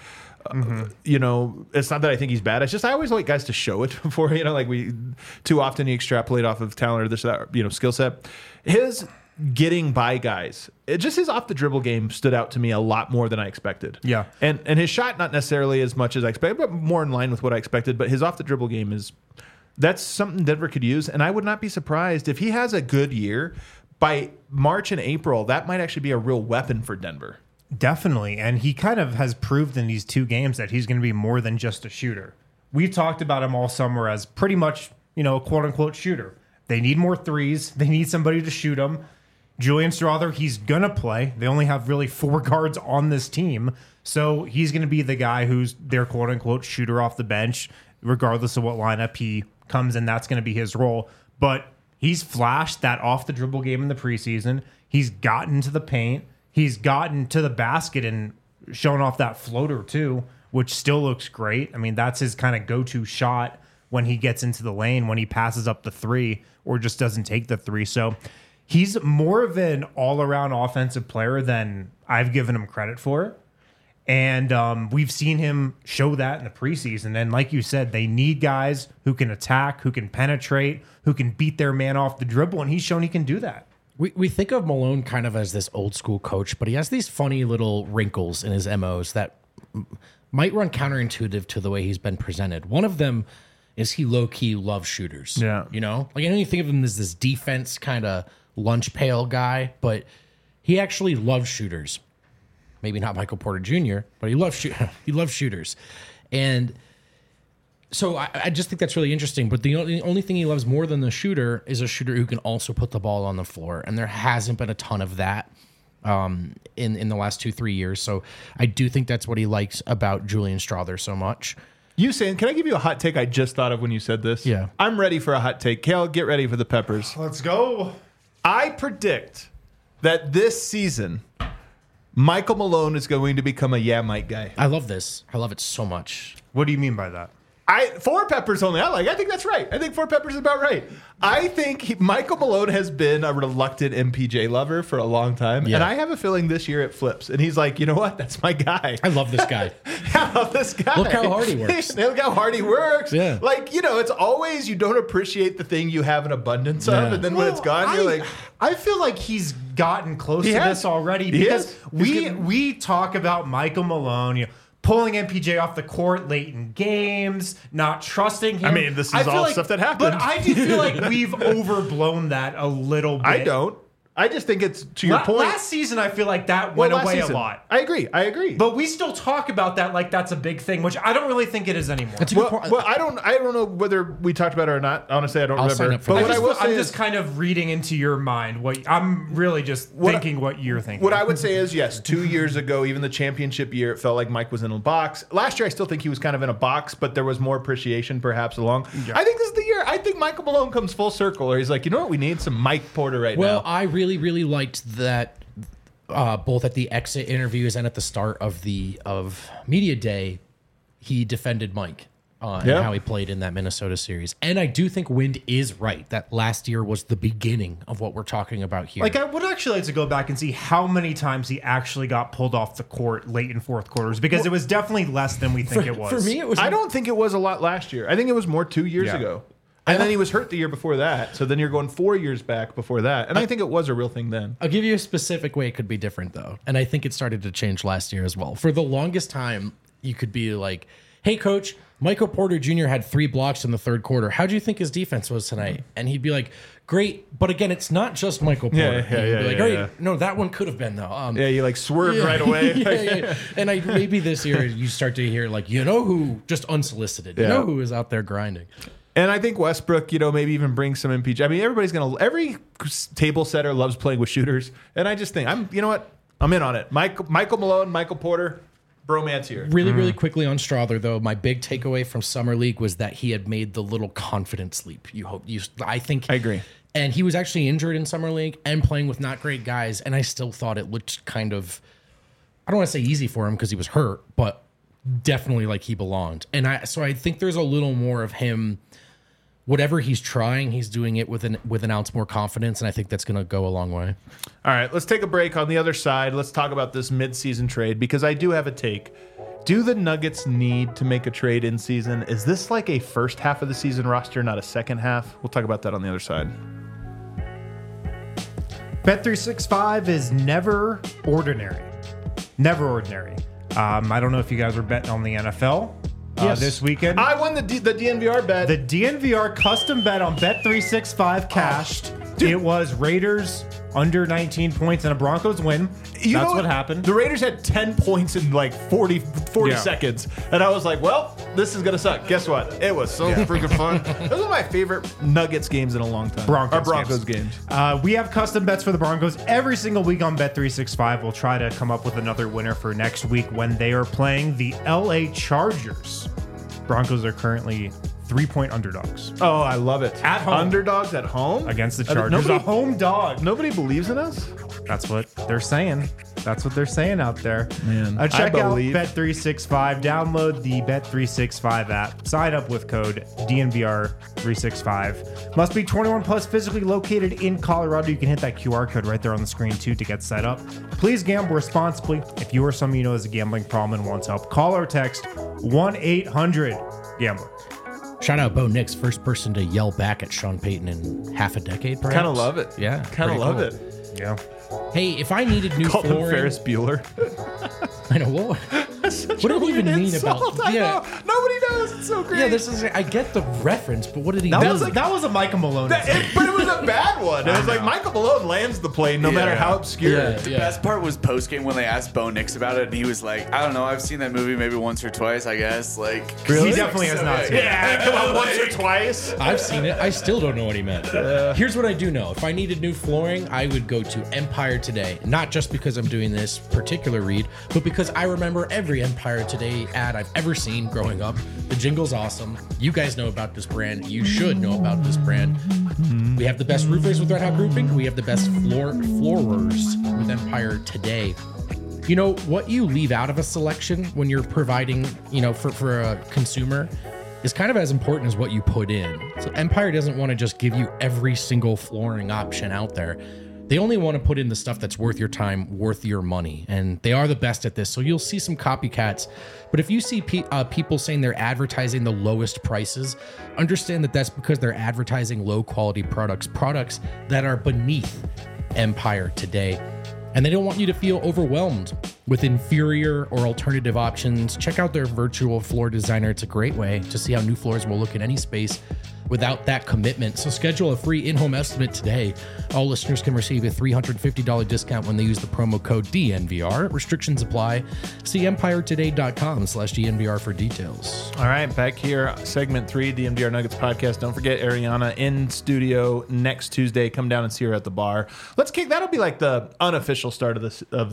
You know, it's not that I think he's bad. It's just I always like guys to show it before, you know, like we too often you extrapolate off of talent or this or that, you know, skill set. His getting by guys, his off the dribble game stood out to me a lot more than I expected. Yeah. And his shot, not necessarily as much as I expected, but more in line with what I expected. But his off the dribble game that's something Denver could use. And I would not be surprised if he has a good year by March and April. That might actually be a real weapon for Denver. Definitely. And he kind of has proved in these 2 games that he's going to be more than just a shooter. We've talked about him all summer as pretty much, you know, a quote unquote shooter. They need more threes. They need somebody to shoot them. Julian Strawther, he's going to play. They only have really 4 guards on this team. So he's going to be the guy who's their quote unquote shooter off the bench, regardless of what lineup he comes in. That's going to be his role. But he's flashed that off the dribble game in the preseason. He's gotten to the paint. He's gotten to the basket and shown off that floater too, which still looks great. I mean, that's his kind of go-to shot when he gets into the lane, when he passes up the 3 or just doesn't take the 3. So he's more of an all-around offensive player than I've given him credit for. And we've seen him show that in the preseason. And like you said, they need guys who can attack, who can penetrate, who can beat their man off the dribble. And he's shown he can do that. We think of Malone kind of as this old school coach, but he has these funny little wrinkles in his MOs that might run counterintuitive to the way he's been presented. One of them is he low-key loves shooters. Yeah. You know? Like, I know you think of him as this defense kind of lunch pail guy, but he actually loves shooters. Maybe not Michael Porter Jr., but he loves shooters. And so I just think that's really interesting. But the only thing he loves more than the shooter is a shooter who can also put the ball on the floor. And there hasn't been a ton of that in the last 2-3 years. So I do think that's what he likes about Julian Strawther so much. You saying, can I give you a hot take I just thought of when you said this? Yeah. I'm ready for a hot take. Kale, get ready for the peppers. Let's go. I predict that this season, Michael Malone is going to become a Mike guy. I love this. I love it so much. What do you mean by that? 4 peppers only. I think that's right. I think 4 peppers is about right. I think Michael Malone has been a reluctant MPJ lover for a long time. Yeah. And I have a feeling this year it flips. And he's like, you know what? That's my guy. I love this guy. I love this guy. Look how hard he works. Look how hard he works. Yeah. Like, you know, it's always you don't appreciate the thing you have an abundance of. Yeah. And then when it's gone, you're like... I feel like he's gotten close He to has. this already He because is. He's we talk about Michael Malone, you know, pulling MPJ off the court late in games, not trusting him. I mean, this is all stuff that happened. But I do feel like we've overblown that a little bit. I don't. I just think it's, to your point... Last season, I feel like that went last away season. a lot. I agree. But we still talk about that like that's a big thing, which I don't really think it is anymore. That's a good point. Well, I don't know whether we talked about it or not. Honestly, I don't I'll remember. sign up for But that. what I will say I'm is, just kind of reading into your mind. I'm really just thinking what you're thinking. what I would say is, yes, 2 years ago, even the championship year, it felt like Mike was in a box. Last year, I still think he was kind of in a box, but there was more appreciation perhaps along. Yeah. I think this is the year. I think Michael Malone comes full circle, or he's like, you know what, we need some Mike Porter right Well, now. I really, really liked that both at the exit interviews and at the start of media day, he defended Mike and how he played in that Minnesota series. And I do think Wind is right that last year was the beginning of what we're talking about here. Like, I would actually like to go back and see how many times he actually got pulled off the court late in fourth quarters, because it was definitely less than we think it was. For me, it was. I don't think it was a lot last year. I think it was more 2 years ago. And then he was hurt the year before that. So then you're going 4 years back before that. And I think it was a real thing then. I'll give you a specific way it could be different, though. And I think it started to change last year as well. For the longest time, you could be like, hey, coach, Michael Porter Jr. had 3 blocks in the third quarter. How do you think his defense was tonight? And he'd be like, great. But again, it's not just Michael Porter. He'd be like, great. No, that one could have been, though. You like swerved right away. yeah. And maybe this year you start to hear, like, you know who, just unsolicited, you know who is out there grinding. And I think Westbrook, maybe even bring some MPJ. I mean, every table setter loves playing with shooters. And I just think, you know what? I'm in on it. Michael Malone, Michael Porter, bromance here. Really, really quickly on Strawther, though, my big takeaway from Summer League was that he had made the little confidence leap. I agree. And he was actually injured in Summer League and playing with not great guys. And I still thought it looked kind of, I don't want to say easy for him because he was hurt, but definitely like he belonged. And so I think there's a little more of him. Whatever he's trying, he's doing it with an ounce more confidence, and I think that's going to go a long way. All right, let's take a break. On the other side, let's talk about this midseason trade, because I do have a take. Do the Nuggets need to make a trade in season? Is this like a first half of the season roster, not a second half? We'll talk about that on the other side. Bet365 is never ordinary. Never ordinary. I don't know if you guys were betting on the NFL this weekend. I won the DNVR bet. The DNVR custom bet on Bet365 cashed. Dude. It was Raiders under 19 points and a Broncos win. That's what happened. The Raiders had 10 points in like 40 Yeah. seconds. And I was like, well, this is going to suck. Guess what? It was so freaking fun. Those are my favorite Nuggets games in a long time. Broncos games. We have custom bets for the Broncos every single week on Bet365. We'll try to come up with another winner for next week when they are playing the LA Chargers. Broncos are currently 3-point underdogs Oh, I love it. At home. Underdogs at home? against the Chargers. Nobody, A home dog. nobody believes in us? That's what they're saying. That's what they're saying out there. Man, Check I out believe. Bet365. Download the Bet365 app. Sign up with code DNVR365. Must be 21 plus, physically located in Colorado. You can hit that QR code right there on the screen too to get set up. Please gamble responsibly. If you or someone you know has a gambling problem and wants help, call or text 1-800-GAMBLER. Shout out Bo Nix, first person to yell back at Sean Payton in half a decade, perhaps. Kind of love it. Yeah. Kind of pretty love cool. it. Yeah. Hey, if I needed new Called him flooring, Ferris Bueller. I know what. What did he even mean about? I know. Nobody knows. It's so great. Yeah, this is. I get the reference, but what did he? That mean? was a Micah Malone. But it was a bad one. It was like Michael Malone lands the plane no matter how obscure. Yeah, The yeah. best part was post game when they asked Bo Nix about it, and he was like, "I don't know, I've seen that movie maybe once or twice, I guess." Like, He definitely has not seen it. Yeah, come on, once or twice. I've seen it. I still don't know what he meant. Here's what I do know. If I needed new flooring, I would go to Empire Today. Not just because I'm doing this particular read, but because I remember every Empire Today ad I've ever seen growing up. The jingle's awesome. You guys know about this brand. You should know about this brand. We have the best roofers with Red Hot Roofing. We have the best floorers with Empire Today. You know, what you leave out of a selection when you're providing, for a consumer is kind of as important as what you put in. So Empire doesn't want to just give you every single flooring option out there. They only want to put in the stuff that's worth your time, worth your money. And they are the best at this. So you'll see some copycats. But if you see people saying they're advertising the lowest prices, understand that that's because they're advertising low quality products that are beneath Empire Today. And they don't want you to feel overwhelmed with inferior or alternative options. Check out their virtual floor designer. It's a great way to see how new floors will look in any space without that commitment. So schedule a free in-home estimate today. All listeners can receive a $350 discount when they use the promo code DNVR. Restrictions apply. See empiretoday.com/DNVR for details. All right, back here, segment 3, DMDR Nuggets podcast. Don't forget Ariana in studio next Tuesday. Come down and see her at the bar. That'll be like the unofficial start of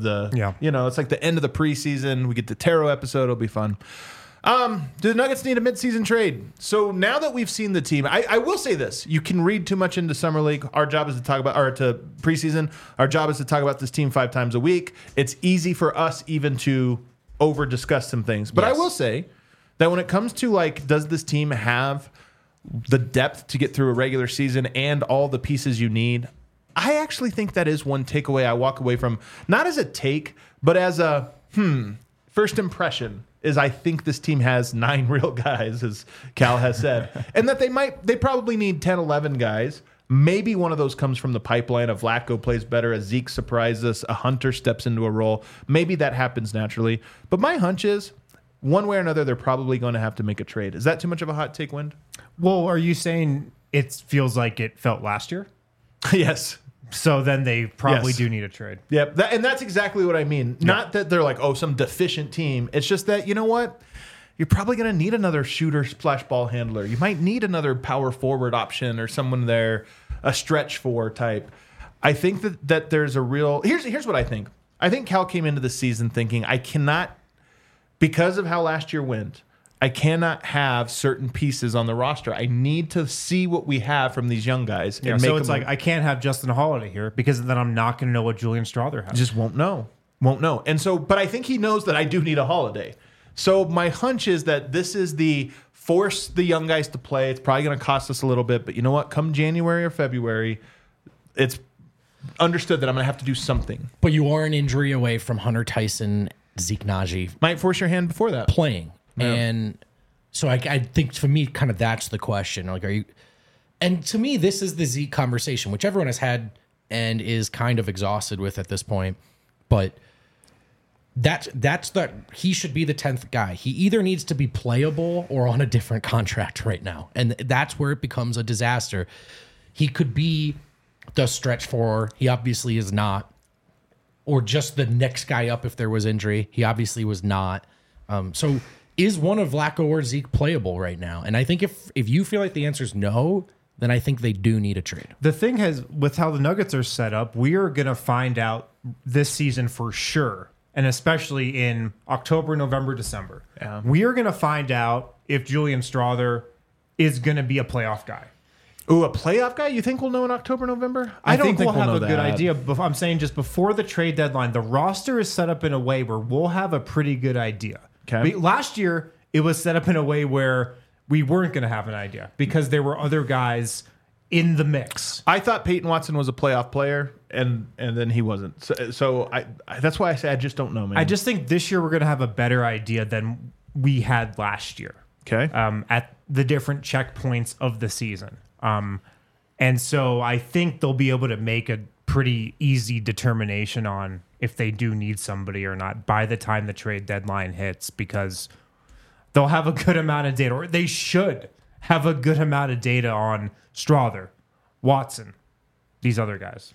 it's like the end of the preseason. We get the tarot episode. It'll be fun. Do the Nuggets need a midseason trade? So now that we've seen the team, I will say this. You can read too much into Summer League. Our job is to talk about, or to preseason. Our job is to talk about this team 5 times a week. It's easy for us even to over discuss some things. But Yes. I will say that when it comes to like, does this team have the depth to get through a regular season and all the pieces you need? I actually think that is one takeaway I walk away from, not as a take, but as a first impression. Is I think this team has 9 real guys, as Cal has said, and that they probably need 10, 11 guys. Maybe one of those comes from the pipeline. A Vlatko plays better, a Zeke surprises us, a Hunter steps into a role. Maybe that happens naturally. But my hunch is, one way or another, they're probably going to have to make a trade. Is that too much of a hot take, Wind? Well, are you saying it feels like it felt last year? Yes. So then they probably Yes. do need a trade. Yep. And that's exactly what I mean. Not that they're like, some deficient team. It's just that, you know what? You're probably going to need another shooter splash ball handler. You might need another power forward option or someone there, a stretch 4 type. I think that there's a real... Here's what I think. I think Cal came into the season thinking, I cannot, because of how last year went, I cannot have certain pieces on the roster. I need to see what we have from these young guys. Yeah, and so make it's them like I can't have Justin Holiday here because then I'm not going to know what Julian Strother has. just won't know. And so, but I think he knows that I do need a Holiday. So my hunch is that this is the force the young guys to play. It's probably going to cost us a little bit, but you know what? Come January or February, it's understood that I'm going to have to do something. But you are an injury away from Hunter Tyson Zeke Najee Might force your hand before that. playing. And so I think for me, kind of that's the question. Like, are you, and to me, this is the Zeke conversation, which everyone has had and is kind of exhausted with at this point. But that's that he should be the 10th guy. He either needs to be playable or on a different contract right now. And that's where it becomes a disaster. He could be the stretch four. He obviously is not. Or just the next guy up if there was injury. He obviously was not. So is one of Flacco or Zeke playable right now? And I think if you feel like the answer is no, then I think they do need a trade. The thing is, with how the Nuggets are set up, we are going to find out this season for sure, and especially in October, November, December. Yeah. We are going to find out if Julian Strother is going to be a playoff guy. Ooh, a playoff guy? You think we'll know in October, November? I think we'll have know a good idea. But I'm saying just before the trade deadline, the roster is set up in a way where we'll have a pretty good idea. Okay. Last year, it was set up in a way where we weren't going to have an idea because there were other guys in the mix. I thought Peyton Watson was a playoff player, and then he wasn't. So I that's why I say I just don't know, man. I just think this year we're going to have a better idea than we had last year. Okay. At the different checkpoints of the season. And so I think they'll be able to make a pretty easy determination on if they do need somebody or not by the time the trade deadline hits, because they'll have a good amount of data, or they should have a good amount of data on Strother, Watson, these other guys.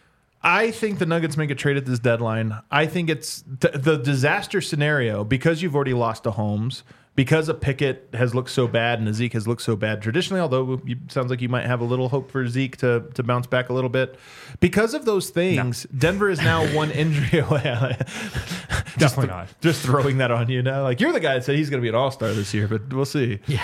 I think the Nuggets make a trade at this deadline. I think it's the disaster scenario because you've already lost to Holmes, because a Pickett has looked so bad and a Zeke has looked so bad traditionally, although it sounds like you might have a little hope for Zeke to bounce back a little bit. Because of those things, no. Denver is now one injury away. Definitely not. Just throwing that on you now. Like, you're the guy that said he's going to be an all-star this year, but we'll see. Yeah.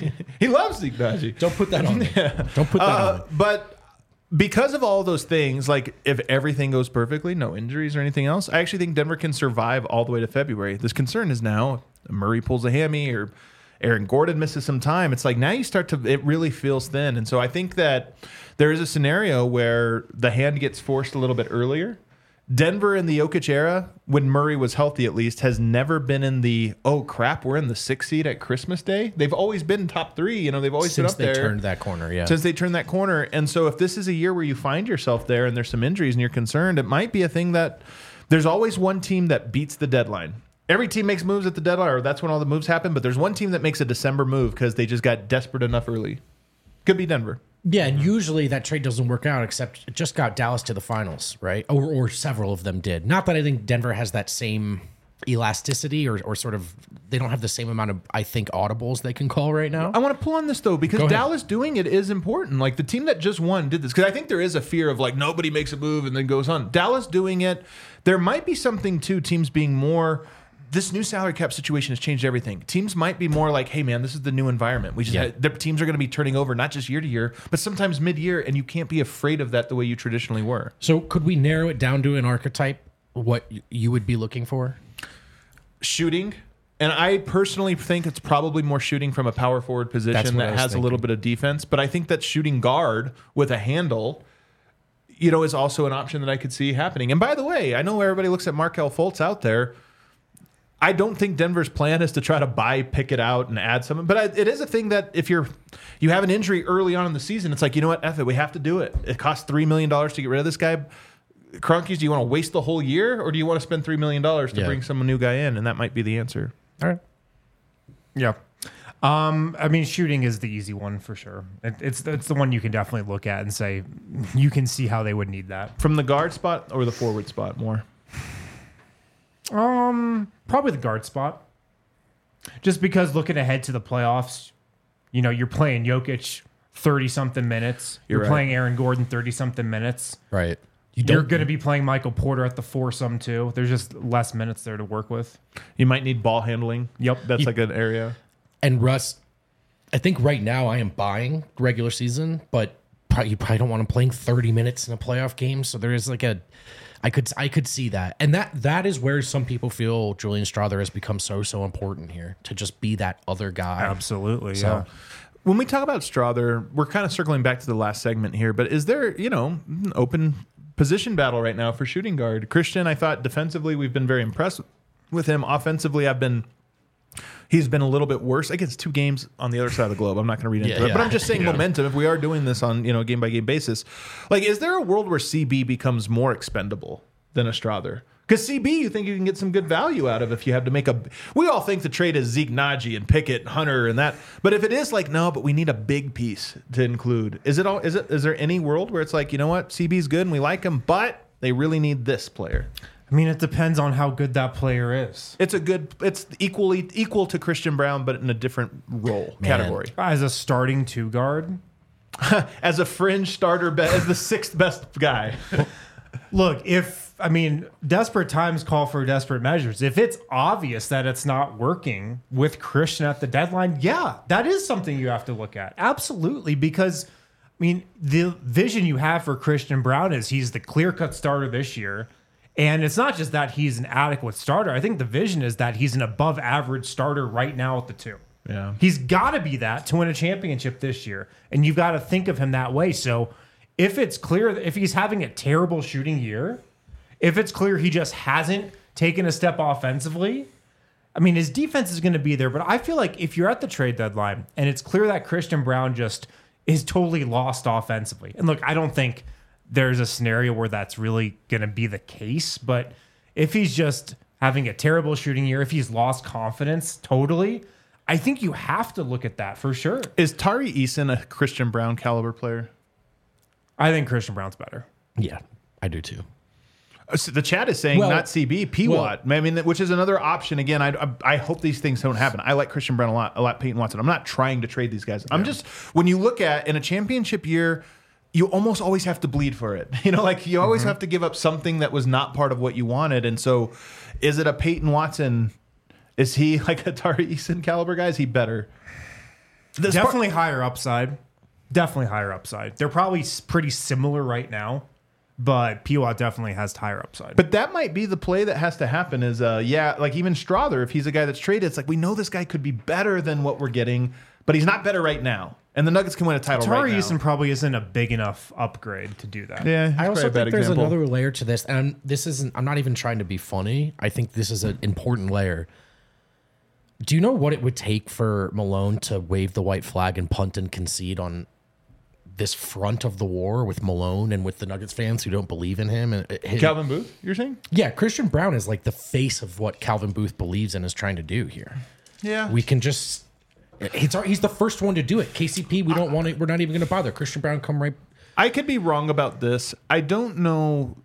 He loves Zeke Najee. Don't put that on me. Yeah. Don't put that on me. But because of all those things, like if everything goes perfectly, no injuries or anything else, I actually think Denver can survive all the way to February. This concern is now Murray pulls a hammy or Aaron Gordon misses some time. It's like now you start to, it really feels thin. And so I think that there is a scenario where the hand gets forced a little bit earlier. Denver in the Jokic era, when Murray was healthy at least, has never been in the, oh crap, we're in the 6th seed at Christmas Day. They've always been top 3. You know, they've always been up there. Since they turned that corner, yeah. Since they turned that corner. And so if this is a year where you find yourself there and there's some injuries and you're concerned, it might be a thing that there's always one team that beats the deadline. Every team makes moves at the deadline, or that's when all the moves happen, but there's one team that makes a December move because they just got desperate enough early. Could be Denver. Yeah, and usually that trade doesn't work out, except it just got Dallas to the finals, right? Or several of them did. Not that I think Denver has that same elasticity or sort of, they don't have the same amount of, I think, audibles they can call right now. I want to pull on this, though, because Dallas doing it is important. Like, the team that just won did this, because I think there is a fear of, like, nobody makes a move and then goes on. Dallas doing it, there might be something, too, teams being more... This new salary cap situation has changed everything. Teams might be more like, hey, man, this is the new environment. We just the teams are going to be turning over not just year to year, but sometimes mid-year, and you can't be afraid of that the way you traditionally were. So could we narrow it down to an archetype, what you would be looking for? Shooting. And I personally think it's probably more shooting from a power forward position that has a little bit of defense. But I think that shooting guard with a handle, you know, is also an option that I could see happening. And by the way, I know everybody looks at Markelle Fultz out there. I don't think Denver's plan is to try to buy Pickett out and add someone. But it is a thing that if you have an injury early on in the season, it's like, you know what, F it, we have to do it. It costs $3 million to get rid of this guy. Kroenkes, do you want to waste the whole year, or do you want to spend $3 million to bring some new guy in? And that might be the answer. All right. Yeah. I mean, shooting is the easy one for sure. It's the one you can definitely look at and say, you can see how they would need that. From the guard spot or the forward spot more? Probably the guard spot. Just because looking ahead to the playoffs, you know, you're playing Jokic 30-something minutes. You're right. playing Aaron Gordon 30-something minutes. Right. You're going to be playing Michael Porter at the foursome too. There's just less minutes there to work with. You might need ball handling. Yep. That's like an area. And Russ, I think right now I am buying regular season, but you probably don't want him playing 30 minutes in a playoff game. So there is like I could see that. And that is where some people feel Julian Strother has become so important here, to just be that other guy. Absolutely. So, yeah. When we talk about Strother, we're kind of circling back to the last segment here, but is there, an open position battle right now for shooting guard? Christian, I thought defensively we've been very impressed with him. Offensively, he's been a little bit worse. I guess 2 games on the other side of the globe. I'm not going to read into it, but I'm just saying momentum. If we are doing this on a game by game basis, like, is there a world where CB becomes more expendable than a Strother? Because CB, you think you can get some good value out of if you have to make a. We all think the trade is Zeke Naji and Pickett and Hunter and that, but if it is like no, but we need a big piece to include. Is there any world where it's like, you know what, CB's good and we like him, but they really need this player? I mean, it depends on how good that player is. It's equal to Christian Brown, but in a different role category. As a starting 2 guard, as a fringe starter, as the 6th best guy. Look, desperate times call for desperate measures. If it's obvious that it's not working with Christian at the deadline, yeah, that is something you have to look at. Absolutely, because the vision you have for Christian Brown is he's the clear-cut starter this year. And it's not just that he's an adequate starter. I think the vision is that he's an above average starter right now at the 2. Yeah. He's got to be that to win a championship this year. And you've got to think of him that way. So if it's clear, if he's having a terrible shooting year, if it's clear he just hasn't taken a step offensively, his defense is going to be there. But I feel like if you're at the trade deadline and it's clear that Christian Brown just is totally lost offensively. And look, I don't think there's a scenario where that's really going to be the case. But if he's just having a terrible shooting year, if he's lost confidence totally, I think you have to look at that for sure. Is Tari Eason a Christian Brown caliber player? I think Christian Brown's better. Yeah, I do too. So the chat is saying not CB, P-Watt. Which is another option. Again, I hope these things don't happen. I like Christian Brown a lot, Peyton Watson. I'm not trying to trade these guys. I'm just, when you look at in a championship year, you almost always have to bleed for it. You always have to give up something that was not part of what you wanted. And so is it a Peyton Watson? Is he like a Tari Eason caliber guy? Is he better? Definitely higher upside. Definitely higher upside. They're probably pretty similar right now, but P-Watt definitely has higher upside. But that might be the play that has to happen is, like even Strother, if he's a guy that's traded, it's like we know this guy could be better than what we're getting, but he's not better right now. And the Nuggets can win a title Tari right now. Eason probably isn't a big enough upgrade to do that. Yeah, I also think there's example. another layer to this, and I'm not even trying to be funny. I think this is an important layer. Do you know what it would take for Malone to wave the white flag and punt and concede on this front of the war with Malone and with the Nuggets fans who don't believe in him? And Calvin Booth, you're saying? Yeah, Christian Brown is like the face of what Calvin Booth believes and is trying to do here. Yeah. We can just... He's the first one to do it. KCP, we don't want it. We're not even going to bother. Christian Brown, come right... I could be wrong about this. I don't know.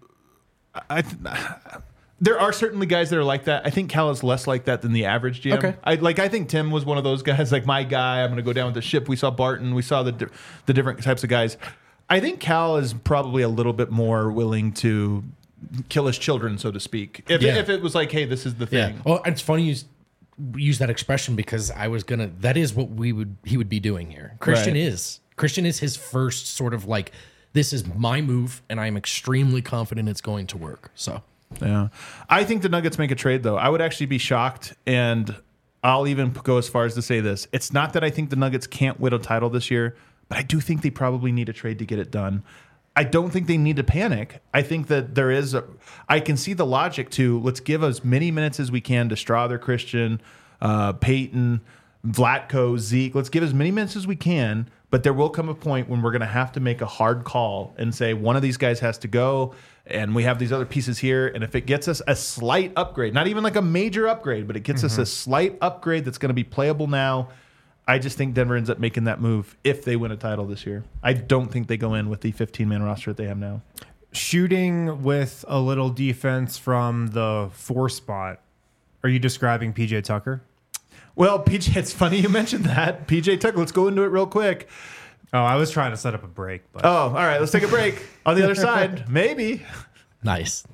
There are certainly guys that are like that. I think Cal is less like that than the average GM. Okay. I think Tim was one of those guys, like my guy. I'm going to go down with the ship. We saw Barton. We saw the different types of guys. I think Cal is probably a little bit more willing to kill his children, so to speak. If it was like, hey, this is the thing. Yeah. Well, it's funny you use that expression because that is what he would be doing here. Christian is his first sort of like, this is my move and I'm extremely confident it's going to work. So yeah, I think the Nuggets make a trade though. I would actually be shocked, and I'll even go as far as to say this. It's not that I think the Nuggets can't win a title this year, but I do think they probably need a trade to get it done. I don't think they need to panic. I think that I can see the logic to let's give as many minutes as we can to Strother, Christian, Peyton, Vlatko, Zeke. Let's give as many minutes as we can, but there will come a point when we're going to have to make a hard call and say one of these guys has to go, and we have these other pieces here. And if it gets us a slight upgrade, not even like a major upgrade, but it gets us a slight upgrade that's going to be playable now, I just think Denver ends up making that move if they win a title this year. I don't think they go in with the 15-man roster that they have now. Shooting with a little defense from the 4 spot. Are you describing PJ Tucker? Well, PJ, it's funny you mentioned that. PJ Tucker, let's go into it real quick. Oh, I was trying to set up a break. But. Oh, all right. Let's take a break. On the other side, maybe. nice.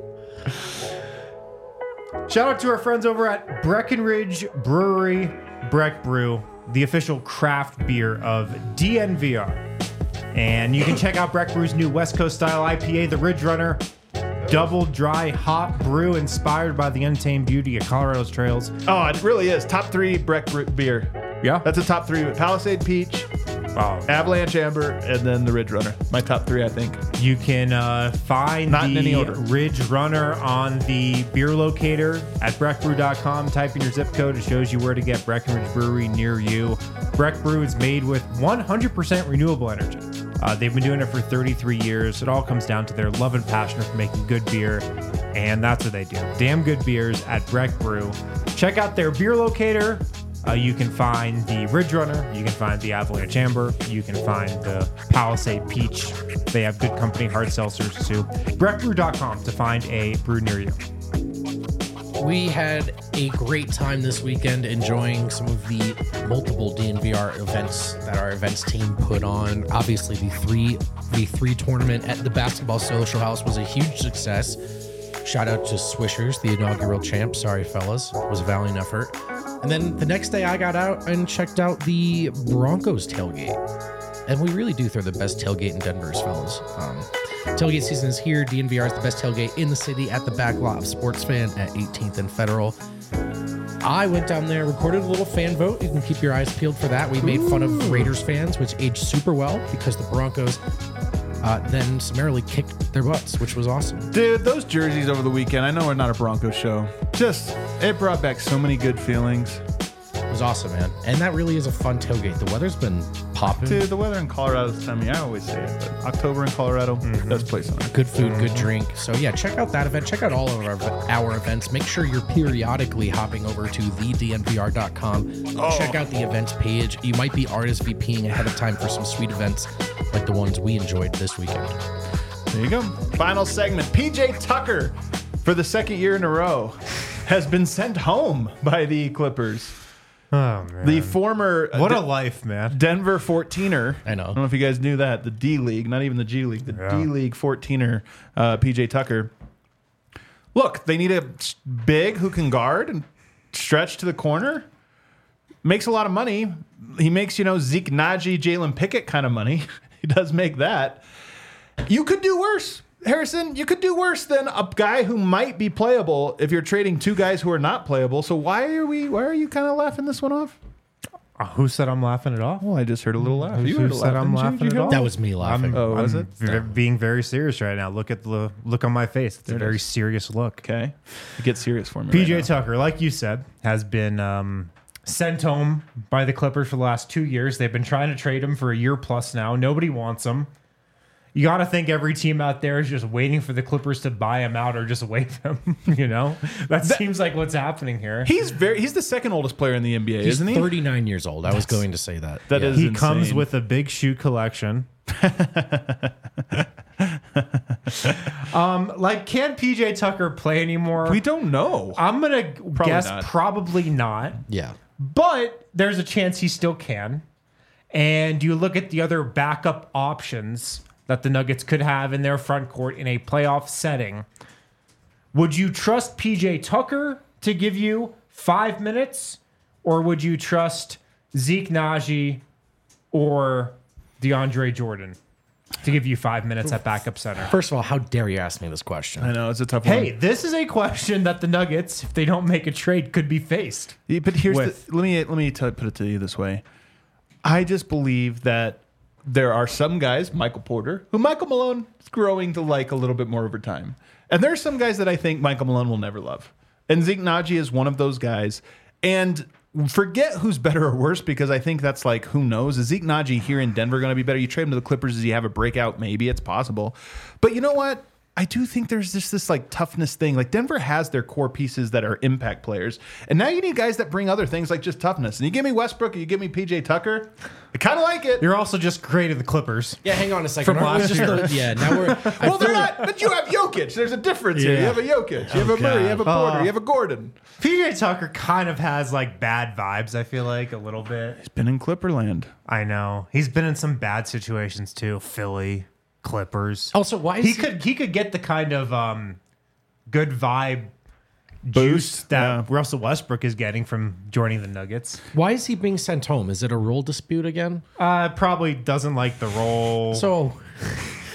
Shout out to our friends over at Breckenridge Brewery, Breck Brew, the official craft beer of DNVR. And you can check out Breck Brew's new West Coast style IPA, the Ridge Runner, double dry hop brew inspired by the untamed beauty of Colorado's trails. Oh, it really is. Top 3 Breck beer. Yeah. That's a top 3. Palisade Peach, Avalanche Amber, and then the Ridge Runner. My top 3, I think. You can find Not in any the order. Ridge Runner on the beer locator at breckbrew.com. Type in your zip code. It shows you where to get Breckenridge Brewery near you. Breck Brew is made with 100% renewable energy. They've been doing it for 33 years. It all comes down to their love and passion for making good beer, and that's what they do. Damn good beers at Breck Brew. Check out their beer locator. You can find the Ridge Runner. You can find the Avalanche Amber. You can find the Palisade Peach. They have good company hard seltzers too. Breckbrew.com to find a brew near you. We had a great time this weekend enjoying some of the multiple DNVR events that our events team put on. Obviously, the three tournament at the Basketball Social House was a huge success. Shout out to Swishers, the inaugural champ. Sorry, fellas. It was a valiant effort. And then the next day I got out and checked out the Broncos tailgate. And we really do throw the best tailgate in Denver's, fellas. Tailgate season is here. DNVR is the best tailgate in the city at the back lot of Sports Fan at 18th and Federal. I went down there, recorded a little fan vote. You can keep your eyes peeled for that. We made fun of Raiders fans, which aged super well because the Broncos then summarily kicked their butts, which was awesome. Dude, those jerseys over the weekend, I know we're not a Broncos show. It brought back so many good feelings. It was awesome, man. And that really is a fun tailgate. The weather's been popping. Dude, the weather in Colorado this time of year, I always say it, but October in Colorado, best place on earth. Good food, good drink. So yeah, check out that event. Check out all of our events. Make sure you're periodically hopping over to thednvr.com. Check out the events page. You might be RSVPing ahead of time for some sweet events like the ones we enjoyed this weekend. There you go. Final segment. PJ Tucker, for the second year in a row, has been sent home by the Clippers. Oh, man. The former What a life, man. Denver 14er. I know. I don't know if you guys knew that. The D League, not even the G League, the Yeah. D League 14er, PJ Tucker. Look, they need a big who can guard and stretch to the corner. Makes a lot of money. He makes, Zeke Naji, Jalen Pickett kind of money. He does make that. You could do worse. Harrison, you could do worse than a guy who might be playable if you're trading two guys who are not playable. So why are you kind of laughing this one off? Who said I'm laughing it off? Well, I just heard a little laugh. Who You heard a said laugh, I'm didn't you? laughing Did you it hear off? That was me laughing. Oh, was it? Being very serious right now. Look at the look on my face. It's a very serious look. Okay. Get serious for me. PJ right now. Tucker, like you said, has been sent home by the Clippers for the last 2 years. They've been trying to trade him for a year plus now. Nobody wants him. You got to think every team out there is just waiting for the Clippers to buy him out or just waive him. That seems like what's happening here. He's the second oldest player in the NBA, He's isn't he? 39 years old. I was going to say that. That Yeah. is He insane. comes with a big shoe collection. Can PJ Tucker play anymore? We don't know. I'm gonna guess not. probably not. Yeah. But there's a chance he still can. And you look at the other backup options that the Nuggets could have in their front court in a playoff setting. Would you trust PJ Tucker to give you 5 minutes? Or would you trust Zeke Naji or DeAndre Jordan to give you 5 minutes at backup center? First of all, how dare you ask me this question? I know it's a tough one. Hey, this is a question that the Nuggets, if they don't make a trade, could be faced. Yeah, but here's with- let me put it to you this way. I just believe that there are some guys, Michael Porter, who Michael Malone is growing to like a little bit more over time. And there are some guys that I think Michael Malone will never love. And Zeke Naji is one of those guys. And forget who's better or worse, because I think that's like, who knows? Is Zeke Naji here in Denver going to be better? You trade him to the Clippers. Does he have a breakout? Maybe. It's possible. But you know what? I do think there's just this like toughness thing. Like Denver has their core pieces that are impact players. And now you need guys that bring other things like just toughness. And you give me Westbrook or you give me PJ Tucker. I kind of like it. You're also just creating the Clippers. Yeah, hang on a second. From Aren't we last just year. now we're. Well, they're not, but you have Jokic. There's a difference here. You have a Jokic. You have a Murray. You have a Porter. You have a Gordon. PJ Tucker kind of has like bad vibes, I feel like, a little bit. He's been in Clipperland. I know. He's been in some bad situations too. Philly, Clippers. Also, why is he could get the kind of good vibe juice that Russell Westbrook is getting from joining the Nuggets. Why is he being sent home? Is it a role dispute again? Probably doesn't like the role. So,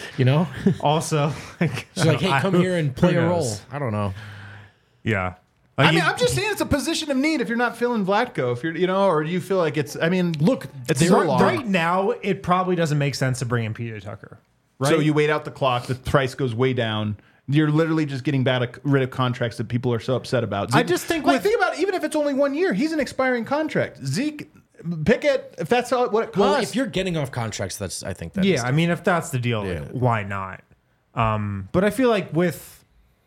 Also, she's like, hey, come here and play a role. I don't know. Yeah. I mean, I'm just saying it's a position of need if you're not feeling Vlatko, if you're, or do you feel like it's, I mean, Look, it's there so are- long. Right now, it probably doesn't make sense to bring in PJ Tucker. Right? So you wait out the clock, the price goes way down. You're literally just getting rid of contracts that people are so upset about. I just think think about it, even if it's only 1 year, he's an expiring contract. Zeke, Pickett, if that's what it costs. Well, if you're getting off contracts, I think that is yeah, I mean, if that's the deal, Yeah. why not? But I feel like with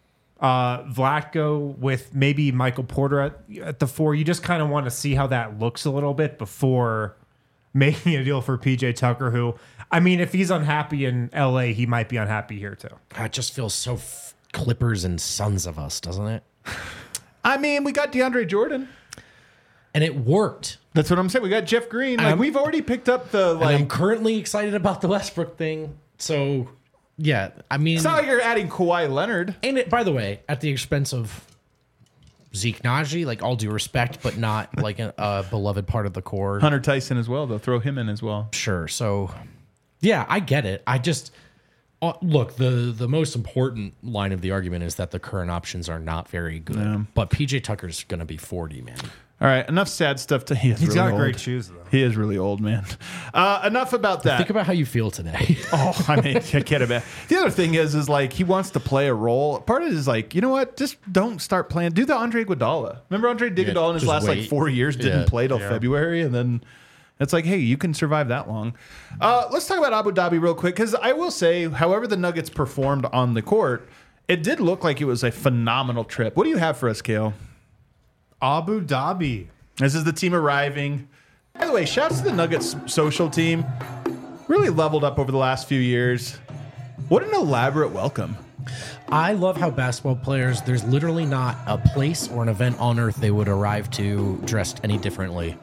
Vlatko, with maybe Michael Porter at the 4, you just kind of want to see how that looks a little bit before making a deal for PJ Tucker, who, I mean, if he's unhappy in LA, he might be unhappy here too. it just feels so Clippers and Sons of us, doesn't it? I mean, we got DeAndre Jordan. And it worked. That's what I'm saying. We got Jeff Green. Like, we've already picked up the, And I'm currently excited about the Westbrook thing. So, yeah, I mean, it's not like you're adding Kawhi Leonard. and it, by the way, at the expense of Zeke Naji, like all due respect, but not like a beloved part of the core. Hunter Tyson as well, though. Throw him in as well. Sure. So, yeah, I get it. I just look, the most important line of the argument is that the current options are not very good. But PJ Tucker's going to be 40, man. All right, enough sad stuff. He's He's really got old. great shoes though. He is really old, man. Enough about that. Think about how you feel today. Oh, I mean, I can't imagine. The other thing is like he wants to play a role. Part of it is like, you know what? Just don't start playing. Do the Andre Iguodala. Remember Andre Iguodala in his just last like wait. 4 years didn't Yeah. play till February, and then it's like, hey, you can survive that long. Let's talk about Abu Dhabi real quick because I will say, however the Nuggets performed on the court, it did look like it was a phenomenal trip. What do you have for us, Kale? Abu Dhabi. This is the team arriving. By the way, shouts to the Nuggets social team. Really leveled up over the last few years. What an elaborate welcome. I love how basketball players, there's literally not a place or an event on earth they would arrive to dressed any differently.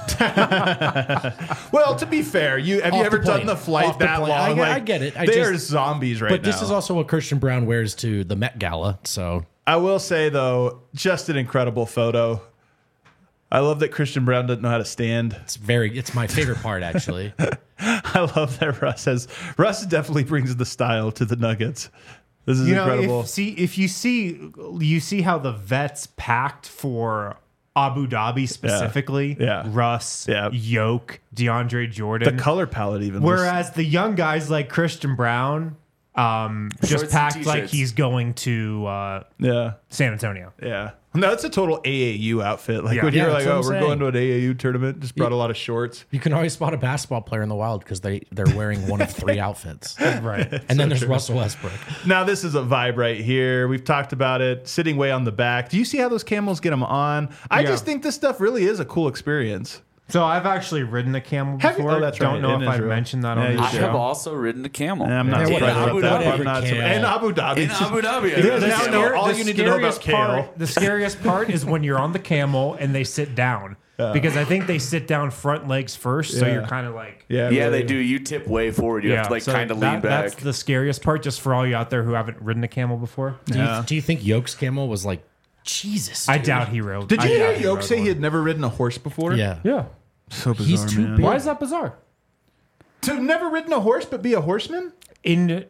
Well, to be fair, have you Off ever the done plane. the flight Off the that plane. long? I get it. They are zombies right now. But this is also what Christian Brown wears to the Met Gala. So I will say, though, just an incredible photo. I love that Christian Brown doesn't know how to stand. it's my favorite part, actually. I love that Russ definitely brings the style to the Nuggets. This is incredible. If you see how the vets packed for Abu Dhabi specifically. Yeah. Russ, Yeah. Yoke, DeAndre Jordan. The color palette even. Whereas the young guys like Christian Brown just Shorts and packed like t-shirts. he's going to yeah. San Antonio. Yeah. No, it's a total AAU outfit. Like Yeah. when you're Yeah, like, that's oh, what I'm we're going to saying. an AAU tournament, just brought a lot of shorts. You can always spot a basketball player in the wild because they're wearing one of 3 outfits. Right. And then there's Russell Westbrook. Now, this is a vibe right here. We've talked about it, sitting way on the back. Do you see how those camels get them on? I Yeah. just think this stuff really is a cool experience. So I've actually ridden a camel Have you? before. Oh, that's Don't right, know in if I've Israel. mentioned that Yeah, on you the I should. have show. also ridden a camel. I'm not Yeah, surprised about whatever, that. whatever, I'm not surprised. Kale. In Abu Dhabi. In Abu Dhabi. Yeah, I now just- know all you need to know about scariest Kale. The scariest part is when you're on the camel and they sit down. Because I think they sit down front legs first, so Yeah. you're kind of like... Yeah, Yeah, really. they do. You tip way forward. You have to like so kind of lean back. That's the scariest part, just for all you out there who haven't ridden a camel before. Do you think Yoke's camel was like, Jesus? I dude. doubt he rode. Did you I hear doubt Yoke rode say one. he had never ridden a horse before? Yeah. Yeah. So bizarre, He's too man. big. Why is that bizarre? To have never ridden a horse but be a horseman? In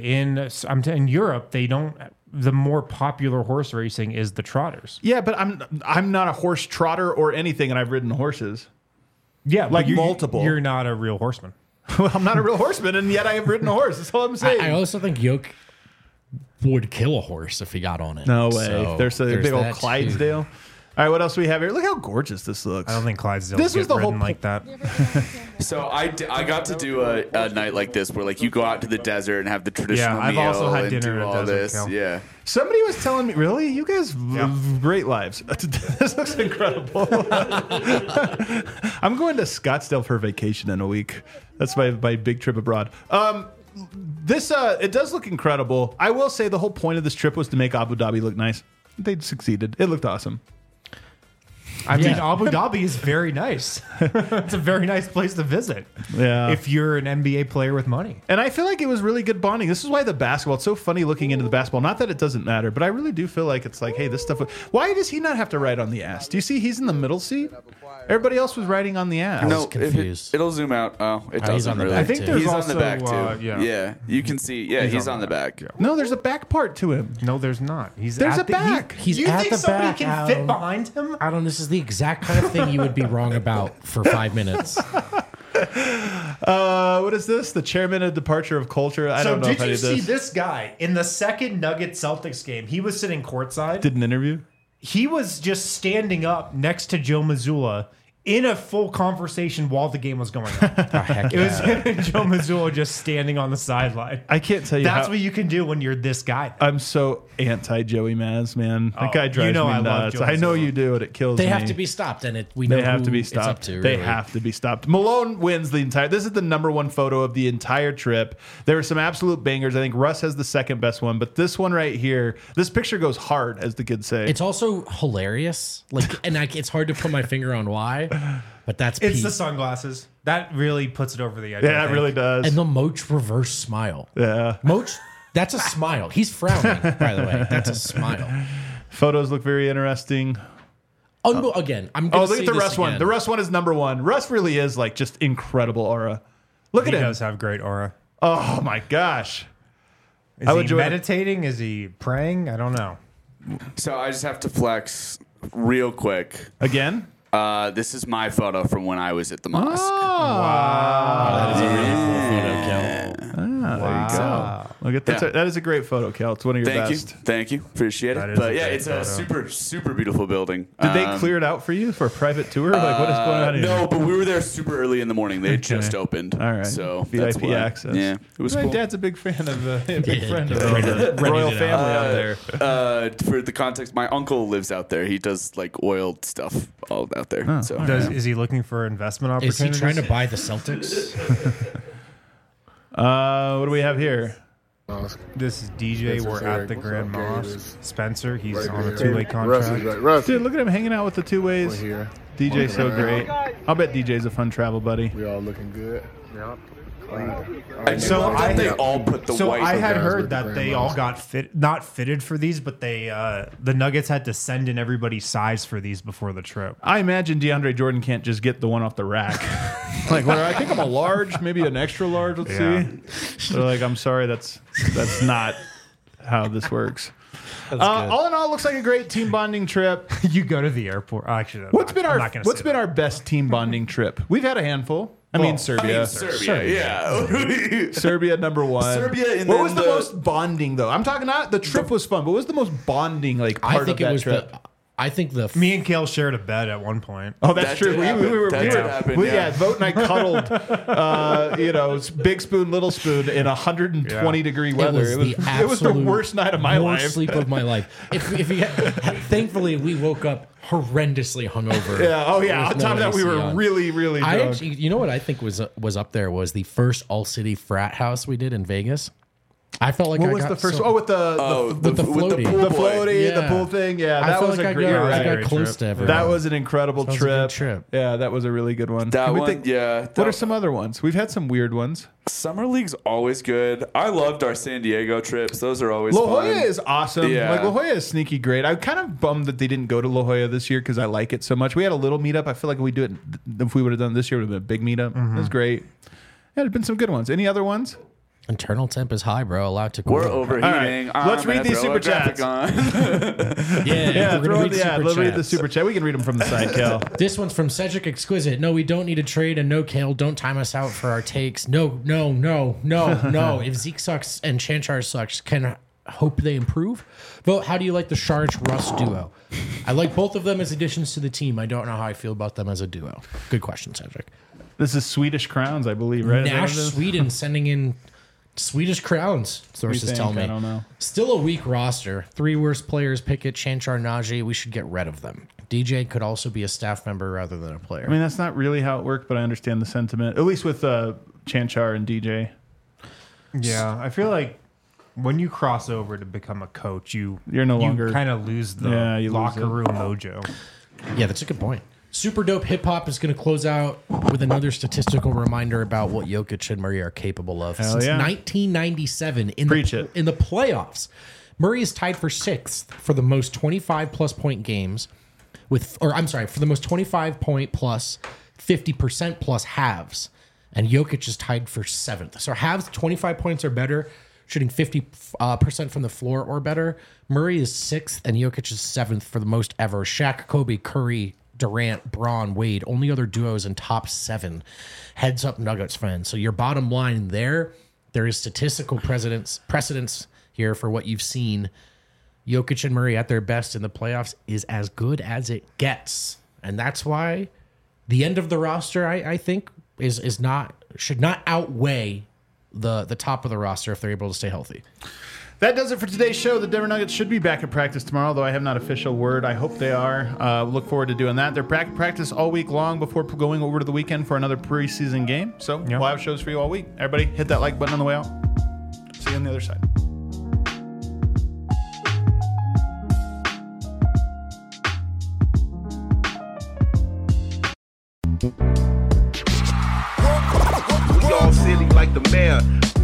Europe, they don't. The more popular horse racing is the trotters. Yeah, but I'm not a horse trotter or anything, and I've ridden horses. Yeah, Like but multiple. You're not a real horseman. Well, I'm not a real horseman, and yet I have ridden a horse. That's all I'm saying. I also think Yoke would kill a horse if he got on it. No way. So, There's a big old that, too. Clydesdale. All right, what else do we have here? Look how gorgeous this looks. I don't think Clydesdale This was get the whole ridden po- like that. So I got to do a night like this where like you go out to the desert and have the traditional I've meal also had and dinner do in a all desert, this. Cal. Yeah. Somebody was telling me, really? You guys live great lives. This looks incredible. I'm going to Scottsdale for vacation in a week. That's my big trip abroad. It does look incredible. I will say the whole point of this trip was to make Abu Dhabi look nice. They succeeded. It looked awesome. I mean, Abu Dhabi is very nice. It's a very nice place to visit. Yeah. If you're an NBA player with money. And I feel like it was really good bonding. This is why the basketball, it's so funny looking into the basketball. Not that it doesn't matter, but I really do feel like it's like, hey, this stuff. Why does he not have to ride on the ass? Do you see he's in the middle seat? Everybody else was riding on the ass. No, confused. it'll zoom out. Oh, it he's doesn't on the really. back, I think too. there's He's also, on the back too. yeah. You can see. Yeah, he's on the back. Yeah. No, there's a back part to him. No, there's not. There's a back. He's you at think the somebody back, can fit Adam. behind him? Adam, this is the exact kind of thing you would be wrong about for 5 minutes. What is this? The chairman of departure of culture. I don't know if I did you did see this. this guy in the second Nuggets Celtics game? He was sitting courtside. Did an interview. He was just standing up next to Joe Mazzulla in a full conversation while the game was going on. Heck It was yeah. him and Joe Mazzulla just standing on the sideline. I can't tell you. That's how, what you can do when you're this guy. I'm so anti Joey Maz, man. That guy drives you know me I love nuts. Joe I know Mazzulla. you do, and it kills They me. have to be stopped, and we know They have who to be it's up stopped. to. They really. have to be stopped. Malone wins the entire. This is the #1 photo of the entire trip. There are some absolute bangers. I think Russ has the second best one, but this one right here, this picture goes hard, as the kids say. It's also hilarious, and it's hard to put my finger on why, but that's It's Pete. the sunglasses. That really puts it over the edge. I yeah, it think. really does. And the Moach reverse smile. Yeah. Moach, that's a smile. He's frowning, by the way. That's a smile. Photos look very interesting. Again, I'm going Oh, to look say at the this Russ one. again. The Russ one is #1. Russ really is like just incredible aura. Look He at him. does have great aura. Oh my gosh. Is I would he join- meditating? Is he praying? I don't know. So I just have to flex real quick. Again? This is my photo from when I was at the mosque. That is a really cool photo, Kel. There you go. Look at that. Yeah. That is a great photo, Kel. It's one of your Thank best. you, thank you, appreciate That it. is But a yeah, great it's a photo. super beautiful building. Did they clear it out for you for a private tour? Like, what is going on here? No, but we were there super early in the morning. They had just opened. All right. So VIP that's why. access. Yeah, it was My cool. dad's a big fan of a big friend of Ready the to royal it family out there. For the context, my uncle lives out there. He does like oil stuff all out there. So Is he looking for investment Is he opportunities? trying to buy the Celtics? What do we have here? This is DJ. Spencer We're Sarek. at the What's Grand up, gang? Mosque. It's Spencer, he's right on a here. two-way Russ is contract. right. Russ, Dude, look at him hanging out with the two we're ways. here. DJ's so great. I'll bet DJ's a fun travel buddy. We all looking good. Yep. I So love I that they had- all put the So white. I had guys heard with the that Grand they all Mosque. got not fitted for these, but they the Nuggets had to send in everybody's size for these before the trip. I imagine DeAndre Jordan can't just get the one off the rack. Like, well, I think I'm a large, maybe an extra large. Let's Yeah. see. They're like, I'm sorry, that's not how this works. All in all, it looks like a great team bonding trip. You go to the airport. Oh, actually, What's been our best team bonding trip? We've had a handful. I mean, Serbia. Serbia, yeah. Serbia #1. Serbia, and what then was the the- most bonding though? I'm talking not the trip was fun, but what was the most bonding like part I think of it that was trip? I think the Me and Kale shared a bed at one point. Oh, that's That true. did We happen. were, That we did were happen, we, yeah. Vote and I cuddled, big spoon, little spoon in 120 degree weather. It was the absolute worst night of my worst life. sleep of my life. If you thankfully we woke up horrendously hungover. Yeah. Oh, yeah. With On top of no that, we AC were on. really, really I drunk. actually, you know what I think was up there was the first all city frat house we did in Vegas. I felt like What I was got the first? so- with the with the floaty. pool the boy. floaty, the Yeah. pool thing. Yeah, I that felt was like a great. I ride. got great close trip. to everyone. That was an incredible was a good trip. trip. Yeah, that was a really good one. That Can we one, think- yeah. What are some other ones? We've had some weird ones. Summer League's always good. I loved our San Diego trips. Those are always La fun. Jolla is awesome. Yeah. Like La Jolla is sneaky great. I'm kind of bummed that they didn't go to La Jolla this year because I like it so much. We had a little meetup. I feel like if we would have done it this year, it would have been a big meetup. It was great. Yeah, there's been some good ones. Any other ones? internal temp is high, bro. Allowed to cool. We're overheating. All right. Let's read these super chats. Yeah, we're throw gonna in read the ad. super Let's read the chats. super chat. We can read them from the side, Cal. This one's from Cedric Exquisite. No, we don't need a trade, and no, Kale, don't time us out for our takes. No. If Zeke sucks and Chanchar sucks, can hope they improve. Vote, how do you like the Sharge-Russ duo? I like both of them as additions to the team. I don't know how I feel about them as a duo. Good question, Cedric. This is Swedish Crowns, I believe, right? Is that what Nash, it is? Sweden, sending in Swedish crowns, sources think? tell me. I don't know. Still a weak roster. 3 worst players, Pickett, Chanchar, Najee. We should get rid of them. DJ could also be a staff member rather than a player. I mean, that's not really how it worked, but I understand the sentiment. At least with Chanchar and DJ. Yeah, I feel like when you cross over to become a coach, You're no longer- kind of lose the Yeah, you lose locker it. room mojo. Yeah, that's a good point. Super Dope Hip Hop is going to close out with another statistical reminder about what Jokic and Murray are capable of. Hell Since yeah. 1997 in Preach it. in the playoffs, Murray is tied for 6th for the most 25-plus point games for the most 25-point plus 50% plus halves. And Jokic is tied for 7th. So halves, 25 points or better, shooting 50% from the floor or better. Murray is 6th and Jokic is 7th for the most ever. Shaq, Kobe, Curry, Durant, Braun, Wade, only other duos in top 7. Heads up, Nuggets fans. So your bottom line there is statistical precedence here for what you've seen. Jokic and Murray at their best in the playoffs is as good as it gets. And that's why the end of the roster, I think, should not outweigh the top of the roster if they're able to stay healthy. That does it for today's show. The Denver Nuggets should be back at practice tomorrow, though I have not official word. I hope they are. Look forward to doing that. They're back at practice all week long before going over to the weekend for another preseason game. So we'll have shows for you all week. Everybody, hit that like button on the way out. See you on the other side. We all silly like the mayor.